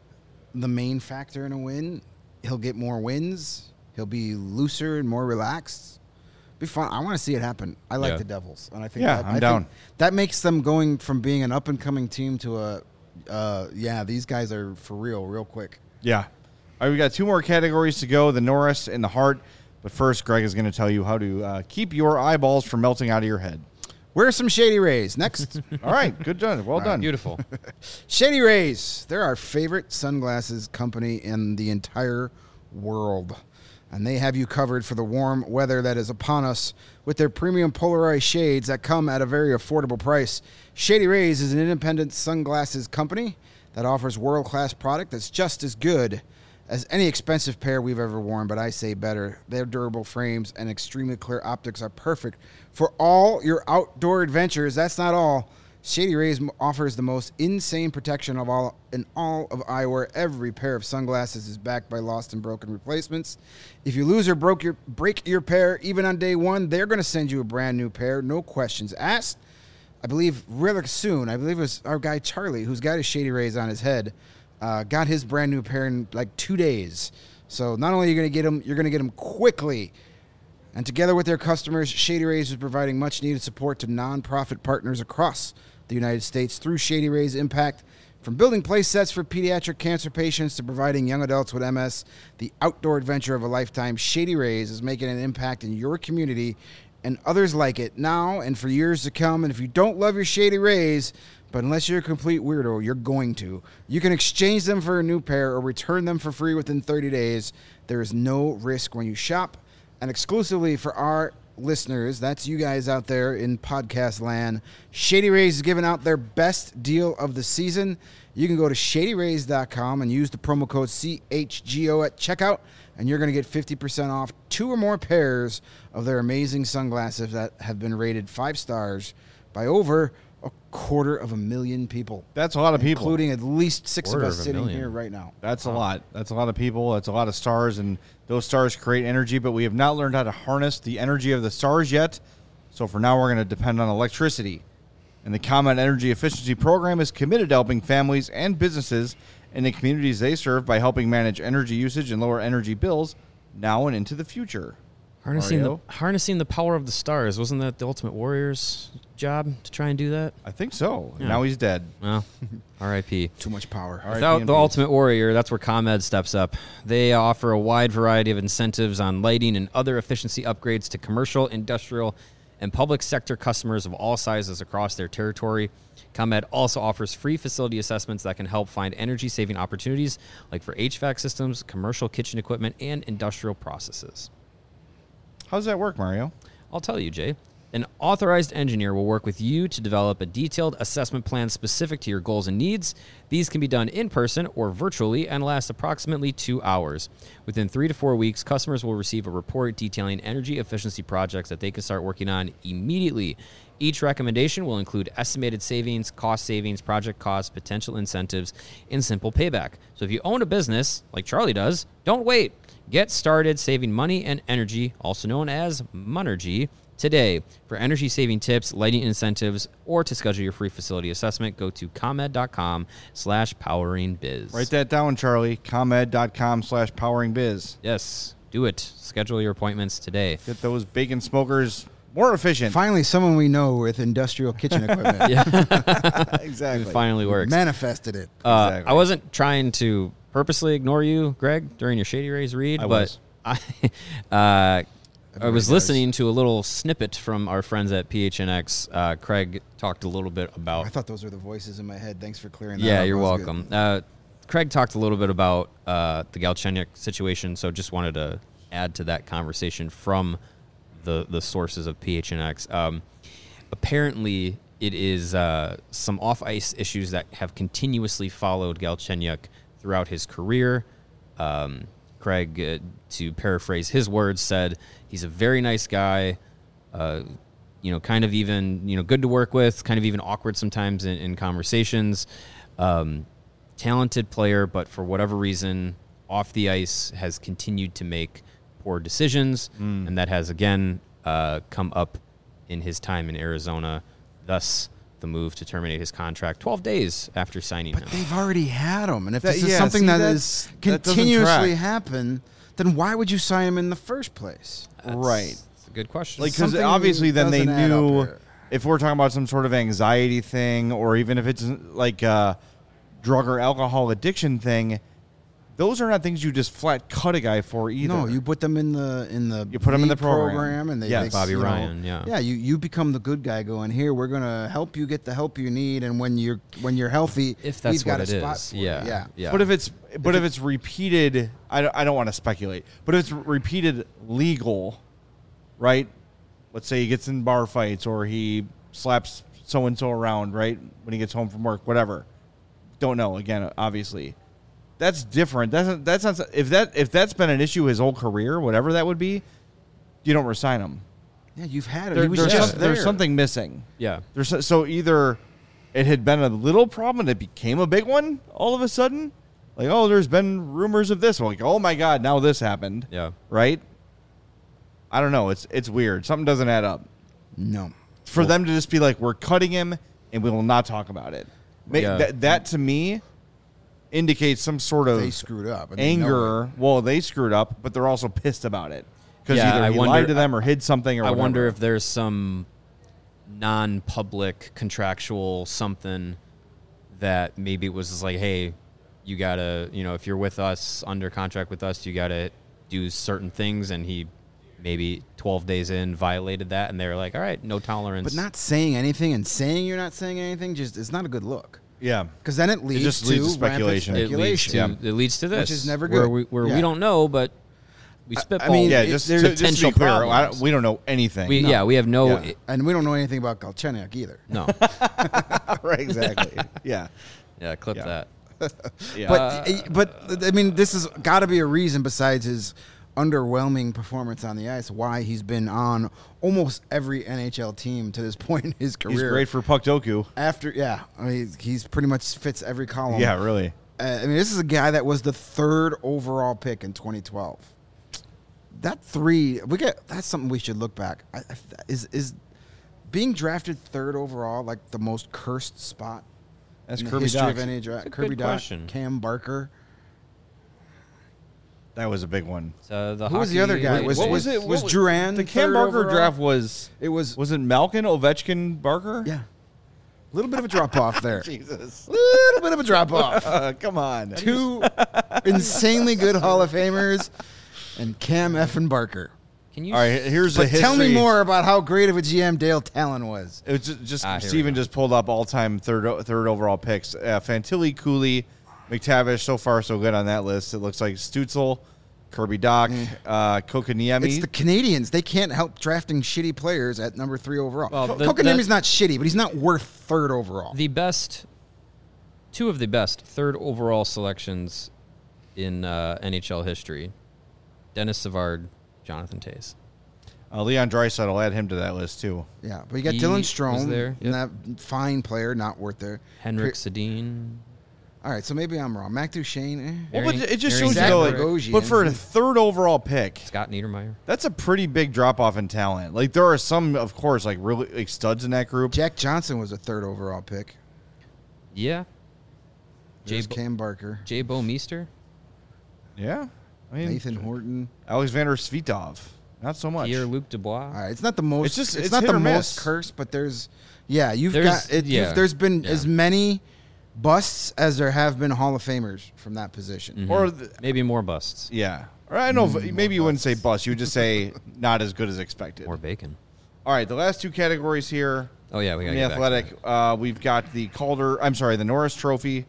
the main factor in a win, he'll get more wins. He'll be looser and more relaxed. Be fun. I want to see it happen. I like Yeah. the Devils, and I think Yeah, that, I'm I down. Think that makes them going from being an up and coming team to a uh, yeah. These guys are for real, real quick. Yeah. All right, we got two more categories to go, the Norris and the Hart. But first, Greg is going to tell you how to uh, keep your eyeballs from melting out of your head. Wear some Shady Rays. Next. All right, good done. Well done. Beautiful. Shady Rays. They're our favorite sunglasses company in the entire world. And they have you covered for the warm weather that is upon us with their premium polarized shades that come at a very affordable price. Shady Rays is an independent sunglasses company that offers world-class product that's just as good as any expensive pair we've ever worn, but I say better. Their durable frames and extremely clear optics are perfect for all your outdoor adventures. That's not all. Shady Rays offers the most insane protection of all in all of eyewear. Every pair of sunglasses is backed by lost and broken replacements. If you lose or broke your break your pair, even on day one, they're going to send you a brand new pair, no questions asked. I believe really soon, I believe it was our guy Charlie, who's got his Shady Rays on his head, uh, got his brand new pair in like two days. So not only are you going to get them, you're going to get them quickly. And together with their customers, Shady Rays is providing much-needed support to nonprofit partners across the United States through Shady Rays Impact. From building play sets for pediatric cancer patients to providing young adults with M S the outdoor adventure of a lifetime, Shady Rays is making an impact in your community and others like it now and for years to come. And if you don't love your Shady Rays, but unless you're a complete weirdo, you're going to. You can exchange them for a new pair or return them for free within thirty days. There is no risk when you shop. And exclusively for our listeners, that's you guys out there in podcast land, Shady Rays is giving out their best deal of the season. You can go to shady rays dot com and use the promo code C H G O at checkout, and you're going to get fifty percent off two or more pairs of their amazing sunglasses that have been rated five stars by over a quarter of a million people. That's a lot of people. Including at least six Quarter of us of a sitting million. here right now. That's a lot. That's a lot of people. That's a lot of stars, and those stars create energy, but we have not learned how to harness the energy of the stars yet. So for now, we're going to depend on electricity. And the ComEd Energy Efficiency Program is committed to helping families and businesses in the communities they serve by helping manage energy usage and lower energy bills now and into the future. Harnessing Mario? the harnessing the power of the stars. Wasn't that the Ultimate Warrior's job to try and do that? I think so. Yeah. Now he's dead. Well, R I P Too much power. All right, Without P M the Ps. Ultimate Warrior, that's where ComEd steps up. They offer a wide variety of incentives on lighting and other efficiency upgrades to commercial, industrial, and public sector customers of all sizes across their territory. ComEd also offers free facility assessments that can help find energy-saving opportunities, like for H V A C systems, commercial kitchen equipment, and industrial processes. How does that work, Mario? I'll tell you, Jay. An authorized engineer will work with you to develop a detailed assessment plan specific to your goals and needs. These can be done in person or virtually and last approximately two hours. Within three to four weeks, customers will receive a report detailing energy efficiency projects that they can start working on immediately. Each recommendation will include estimated savings, cost savings, project costs, potential incentives, and simple payback. So if you own a business, like Charlie does, don't wait. Get started saving money and energy, also known as Monergy, today. For energy-saving tips, lighting incentives, or to schedule your free facility assessment, go to ComEd.com slash poweringbiz. Write that down, Charlie. ComEd.com slash poweringbiz. Yes, do it. Schedule your appointments today. Get those bacon smokers more efficient. Finally, someone we know with industrial kitchen equipment. Yeah, Exactly. it finally works. Manifested it. Uh, Exactly. I wasn't trying to purposely ignore you, Greg, during your Shady Rays read, I but was. I, uh, I was does. listening to a little snippet from our friends at P H N X. Uh, Craig talked a little bit about. I thought those were the voices in my head. Thanks for clearing that Yeah, up. you're That was good. welcome. Uh, Craig talked a little bit about uh, the Galchenyuk situation, so just wanted to add to that conversation from the the sources of P H N X. Um, apparently, it is uh, some off-ice issues that have continuously followed Galchenyuk throughout his career. Um, Craig, uh, to paraphrase his words, said he's a very nice guy, uh, you know, kind of even, you know, good to work with, kind of even awkward sometimes in, in conversations. Um, talented player, but for whatever reason, off the ice has continued to make poor decisions, Mm. and that has, again, uh, come up in his time in Arizona, thus the move to terminate his contract twelve days after signing But him. they've already had him, and if That- this is yeah, something see, that that's- is that doesn't continuously track. happen, then why would you sign him in the first place? That's- Right. That's a good question. Like, because Something obviously then they doesn't add up knew here. if we're talking about some sort of anxiety thing, or even if it's like a drug or alcohol addiction thing, those are not things you just flat cut a guy for either. No, you put them in the in the You put 'em in the league program. and they, Yes. they Bobby you know, Ryan, yeah. yeah. You you become the good guy going here. We're gonna help you get the help you need, and when you're when you're healthy, if that's we've got what a it spot is. for you. Yeah. yeah. Yeah. But if it's but if, it's repeated, I don't, I don't want to speculate. But if it's repeated legal, right? Let's say he gets in bar fights or he slaps so and so around, right? When he gets home from work, whatever. Don't know. Again, obviously, that's different. That's that's not if that if that's been an issue his whole career, whatever that would be, you don't resign him. Yeah, you've had it. There- he was there's, just some- there. there's something missing. yeah. There's so- so either it had been a little problem and it became a big one all of a sudden, like oh, there's been rumors of this. Like oh my god, now this happened. Yeah. Right. I don't know. It's it's weird. Something doesn't add up. No. For them to just be like, we're cutting him and we will not talk about it. Ma- Yeah. That that to me indicates some sort of They screwed up. and they know anger. Well, they screwed up, but they're also pissed about it because Yeah, either I he wonder- lied to them or hid something or I whatever. wonder if there's some non-public contractual something that maybe it was just like, hey, you gotta, you know, if you're with us under contract with us, you gotta do certain things, and he maybe twelve days in violated that, and they were like, all right, no tolerance. But not saying anything and saying you're not saying anything just is not a good look. yeah. Because then it leads just to leads to rampant speculation. it leads speculation. to it leads to this, Which is never Where good. we where Yeah. we don't know, but we spitball. mean, Yeah, it- just, there's to, just to be potential clear, I problems. don't- we don't know anything. we, yeah, we have no Yeah. And we don't know anything about Galchenyuk either. no. right, exactly. Yeah. Yeah, clip Yeah. that. Yeah. But but I mean, this has got to be a reason besides his underwhelming performance on the ice why he's been on almost every N H L team to this point in his career. he's great for puck doku. After yeah, I mean, he's pretty much fits every column. Yeah, really. Uh, I mean, this is a guy that was the third overall pick in twenty twelve. That three, we get that's something we should look back. I, I, is is being drafted third overall like the most cursed spot That's in the Kirby history Dach. of N H L? That's a Kirby good Dach, question. Cam Barker. That was a big one. So the Who was the hockey- other guy? wait, Was- wait, was- it? was What Drouin The Cam third Barker overall? draft was It was was it Malkin, Ovechkin, Barker? yeah, a little bit of a drop off there. Jesus. little bit of a drop off. Uh, come on. Two insanely good Hall of Famers, and Cam effing Barker. Can you All right, here's the But history. tell me more about how great of a G M Dale Talon was. It was just, just Ah, here we Steven go. just pulled up all-time third o- third overall picks. Uh, Fantilli, Cooley, McTavish. So far, so good on that list. It looks like Stutzel, Kirby Dach, uh, Kokoniemi. It's the Canadians. They can't help drafting shitty players at number three overall. Well, Ko- the- Kokoniemi's the- not shitty, but he's not worth third overall. the best, two of the best third overall selections in uh, N H L history: Dennis Savard, Jonathan Toews. uh, Leon Draisaitl. I'll add him to that list too. yeah, but you got He Dylan was Strome, there, and that fine player, not worth there. Henrik Pe- Sedin. All right, so maybe I'm wrong. Mac Duchene. Eh. Well, but Marion- it just Marion shows you, though, like, Bogosian. but for a third overall pick, Scott Niedermeyer. that's a pretty big drop off in talent. Like, there are some, of course, like really like studs in that group. Jack Johnson was a third overall pick. Yeah. Jay, There's Bo- Cam Barker, Jay Bo Meester. Yeah, I mean, Nathan Horton. Alexander Svitov, not so much. Pierre Luc Dubois. All right, it's not the most. It's just- it's, it's not hit the or most miss. cursed, but there's, yeah, you've There's- got. It, yeah. you've, there's been Yeah. as many busts as there have been Hall of Famers from that position. Mhm. Or the, Maybe more busts. yeah, or I don't know. Mm, if, maybe you more wouldn't say bust. You would just say not as good as expected. More bacon. All right, the last two categories here. Oh, yeah. We got In the athletic, uh, we've got the Calder. I'm sorry, the Norris Trophy.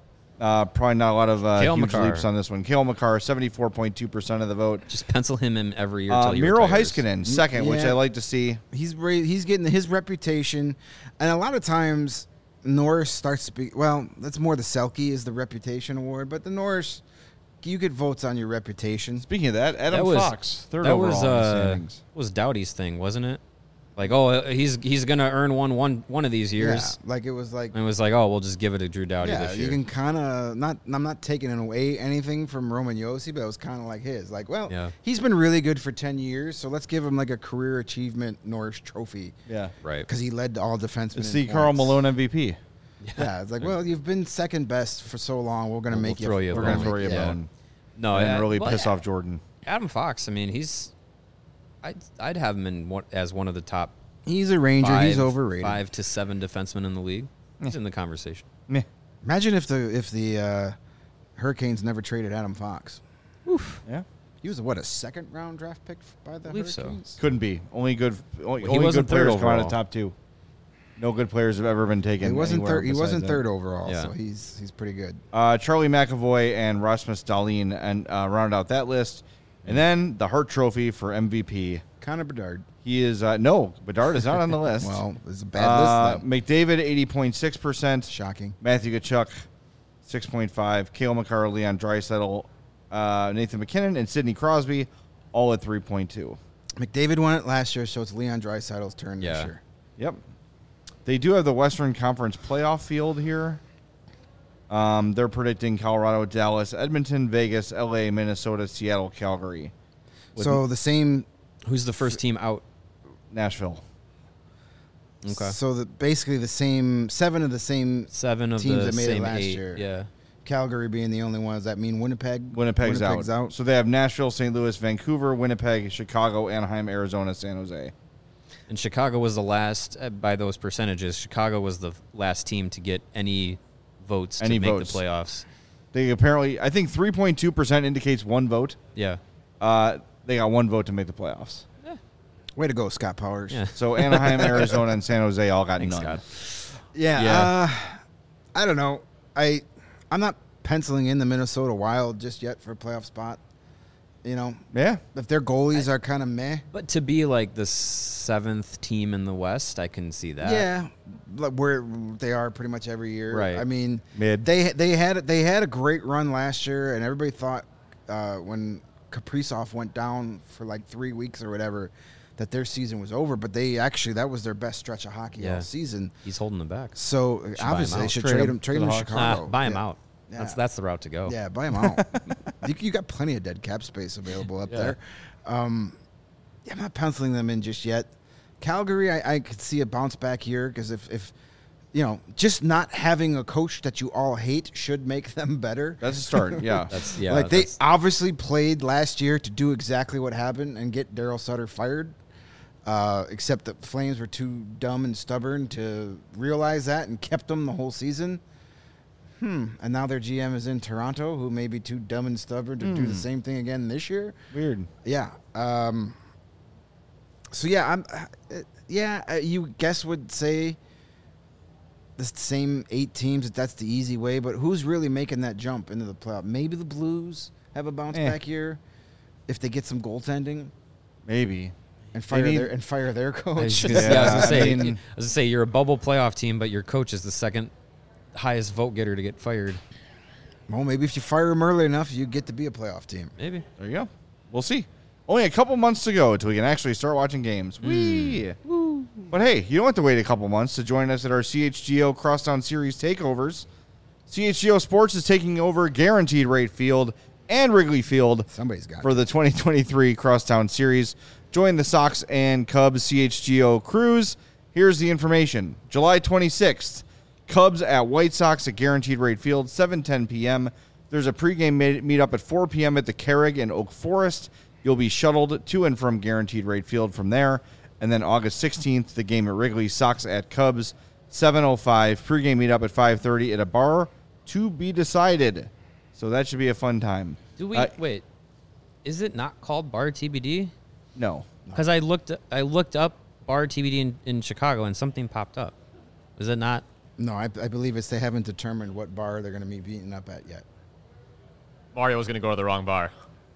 Uh, probably not a lot of uh, Cale huge Makar. leaps on this one. Cale Makar, seventy-four point two percent of the vote. Just pencil him in every year Uh, until he Miro retires. Heiskanen, second, which Yeah. I like to see. He's ra- he's getting his reputation, and a lot of times Norris starts to be. Well, that's more the Selke is the reputation award, but the Norris, you get votes on your reputation. Speaking of that, Adam That was- Fox, third That overall was in the uh, standings. was Doughty's thing, wasn't it? Like, oh, uh, he's he's gonna earn one one one of these years. Yeah, like it was like. And it was like, oh, we'll just give it to Drew Doughty Yeah, this you year. can kind of not. I'm not taking away anything from Roman Josi, but it was kind of like his. Like, well, Yeah. he's been really good for ten years, so let's give him like a career achievement Norris Trophy Yeah. right. because he led all defensemen. It's in the Karl points. Malone M V P. Yeah, it's like, well, you've been second best for so long. We're gonna We'll- make we'll throw you a We're bone. going gonna to throw make- you a yeah. bone No, and I- really well, piss yeah, off Jordan. Adam Fox. I mean, he's. I'd I'd have him in one, as one of the top. He's a Ranger. Five, he's overrated. Five to seven defensemen in the league. He's in the conversation. Meh. Imagine if the if the uh, Hurricanes never traded Adam Fox. Yeah. He was what a second round draft pick by the Believe so. Hurricanes. Couldn't be. Only good only, Well, he only wasn't good players third come out of overall. top two. No good players have ever been taken. He wasn't anywhere third. He besides wasn't that. third overall, Yeah. so he's he's pretty good. Uh, Charlie McAvoy and Rasmus Dahlin and uh, rounded out that list. And then the Hart Trophy for M V P. Connor Bedard. He is uh, no Bedard is not on the list. Well, it's a bad uh, list. Then. McDavid eighty point six percent. Shocking. Matthew Tkachuk six point five. Cale Makar, Leon Draisaitl, uh, Nathan McKinnon, and Sidney Crosby all at three point two. McDavid won it last year, so it's Leon Draisaitl's turn this Yeah. year. Yep. They do have the Western Conference playoff field here. Um, they're predicting Colorado, Dallas, Edmonton, Vegas, L A, Minnesota, Seattle, Calgary. With So the same. Who's the first team out? Nashville. Okay. So the, basically the same seven of the same. Seven of teams the that made it same last eight. year. Yeah. Calgary being the only one. Does that mean Winnipeg? Winnipeg's, Winnipeg's out. out. So they have Nashville, Saint Louis, Vancouver, Winnipeg, Chicago, Anaheim, Arizona, San Jose. And Chicago was the last, uh, by those percentages, Chicago was the last team to get any votes Any to make votes. the playoffs. They apparently, I think three point two percent indicates one vote. Yeah. Uh, they got one vote to make the playoffs. Way to go, Scott Powers. Yeah. So Anaheim, Arizona, and San Jose all got Thanks, none. Scott. Yeah. Yeah. Uh, I don't know. I I'm not penciling in the Minnesota Wild just yet for a playoff spot. You know, Yeah. if their goalies are kind of meh. But to be like the seventh team in the West, I can see that. Yeah, like where they are pretty much every year. Right. I mean, Mid. they they had they had a great run last year, and everybody thought uh, when Kaprizov went down for like three weeks or whatever that their season was over. But they actually that was their best stretch of hockey Yeah. all season. He's holding them back. So buy him obviously they out. should Trade trade him him trade to him the to Hawks. Chicago. Ah, buy him Yeah. out. That's Yeah. that's the route to go. Yeah, buy him out. you, you got plenty of dead cap space available up Yeah. there. Um, yeah, I'm not penciling them in just yet. Calgary, I, I could see a bounce back here because if, if, you know, just not having a coach that you all hate should make them better. That's a start. Yeah. That's yeah. like they that's- obviously played last year to do exactly what happened and get Daryl Sutter fired. Uh, except the Flames were too dumb and stubborn to realize that and kept them the whole season. Hmm. And now their G M is in Toronto, who may be too dumb and stubborn to do the same thing again this year. Weird. Yeah. Um, so yeah, I'm. Uh, yeah, uh, you guess would say the same eight teams. That that's the easy way. But who's really making that jump into the playoff? Maybe the Blues have a bounce Eh. back year if they get some goaltending Maybe. and fire need- their and fire their I was coach. gonna, yeah, I was gonna I say, mean- I was gonna say you're a bubble playoff team, but your coach is the second highest vote getter to get fired. Well, maybe if you fire them early enough, you get to be a playoff team. Maybe. There you go. We'll see. Only a couple months to go until we can actually start watching games. Whee! But hey, you don't have to wait a couple months to join us at our C H G O Crosstown Series takeovers. C H G O Sports is taking over Guaranteed Rate Field and Wrigley Field Somebody's got for the twenty twenty-three Crosstown Series. Join the Sox and Cubs C H G O crews. Here's the information. July twenty-sixth, Cubs at White Sox at Guaranteed Rate Field, seven ten p.m. There's a pregame meet- meetup at four p.m. at the Carrig in Oak Forest. You'll be shuttled to and from Guaranteed Rate Field from there. And then August sixteenth, the game at Wrigley, Sox at Cubs, seven oh five. Pregame meetup at five thirty at a bar to be decided. So that should be a fun time. Do we Uh, wait? Is it not called Bar T B D? No. Because I looked, I looked up Bar T B D in, in Chicago, and something popped up. Is it not? No, I, I believe it's they haven't determined what bar they're going to be beating up at yet. Mario was going to go to the wrong bar.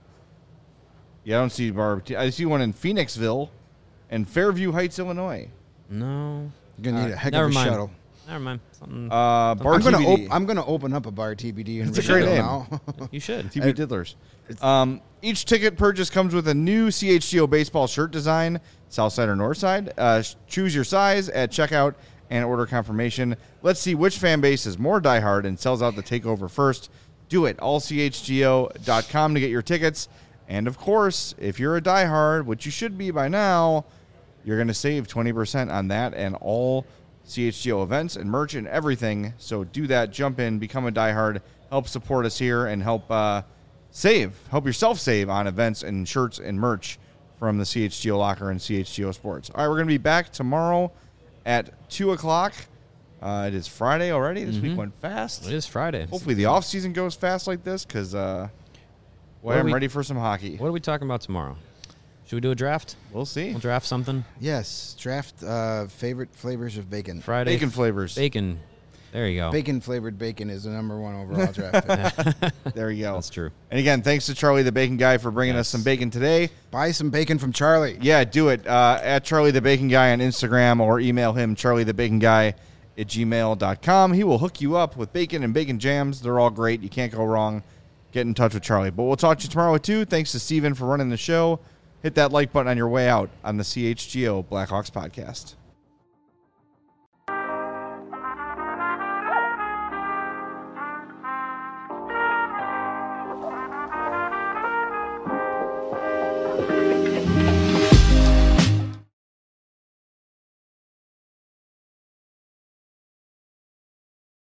Yeah, I don't see bar. I see one in Phoenixville and Fairview Heights, Illinois. No. You're going to need a heck Never of a mind. shuttle. Never mind. Something. Uh, bar I'm going T to B D. op- I'm going to open up a bar T B D in It's a great Richmond name. now. you should. T B Diddlers. Um, each ticket purchase comes with a new C H G O baseball shirt design, south side or north side. Uh, choose your size at checkout and order confirmation. Let's see which fan base is more diehard and sells out the takeover first. Do it. all c h g o dot com to get your tickets. And, of course, if you're a diehard, which you should be by now, you're going to save twenty percent on that and all C H G O events and merch and everything. So do that. Jump in. Become a diehard. Help support us here and help uh, save. Help yourself save on events and shirts and merch from the C H G O Locker and C H G O Sports. All right, we're going to be back tomorrow at two o'clock. Uh, it is Friday already. This Mm-hmm. week went fast. It is Friday. Hopefully the off season goes fast like this because uh, boy, are I'm we- ready for some hockey. What are we talking about tomorrow? Should we do a draft? We'll see. We'll draft something. Yes, draft uh, favorite flavors of bacon. Friday. Bacon flavors. Bacon. There you go. Bacon flavored bacon is the number one overall draft pick. There you go. That's true. And again, thanks to Charlie the Bacon Guy for bringing us Yes. some bacon today. Buy some bacon from Charlie. Yeah, do it. Uh, at Charlie the Bacon Guy on Instagram or email him, charlie the bacon guy at gmail dot com. He will hook you up with bacon and bacon jams. They're all great. You can't go wrong. Get in touch with Charlie. But we'll talk to you tomorrow, too. Thanks to Steven for running the show. Hit that like button on your way out on the C H G O Blackhawks podcast.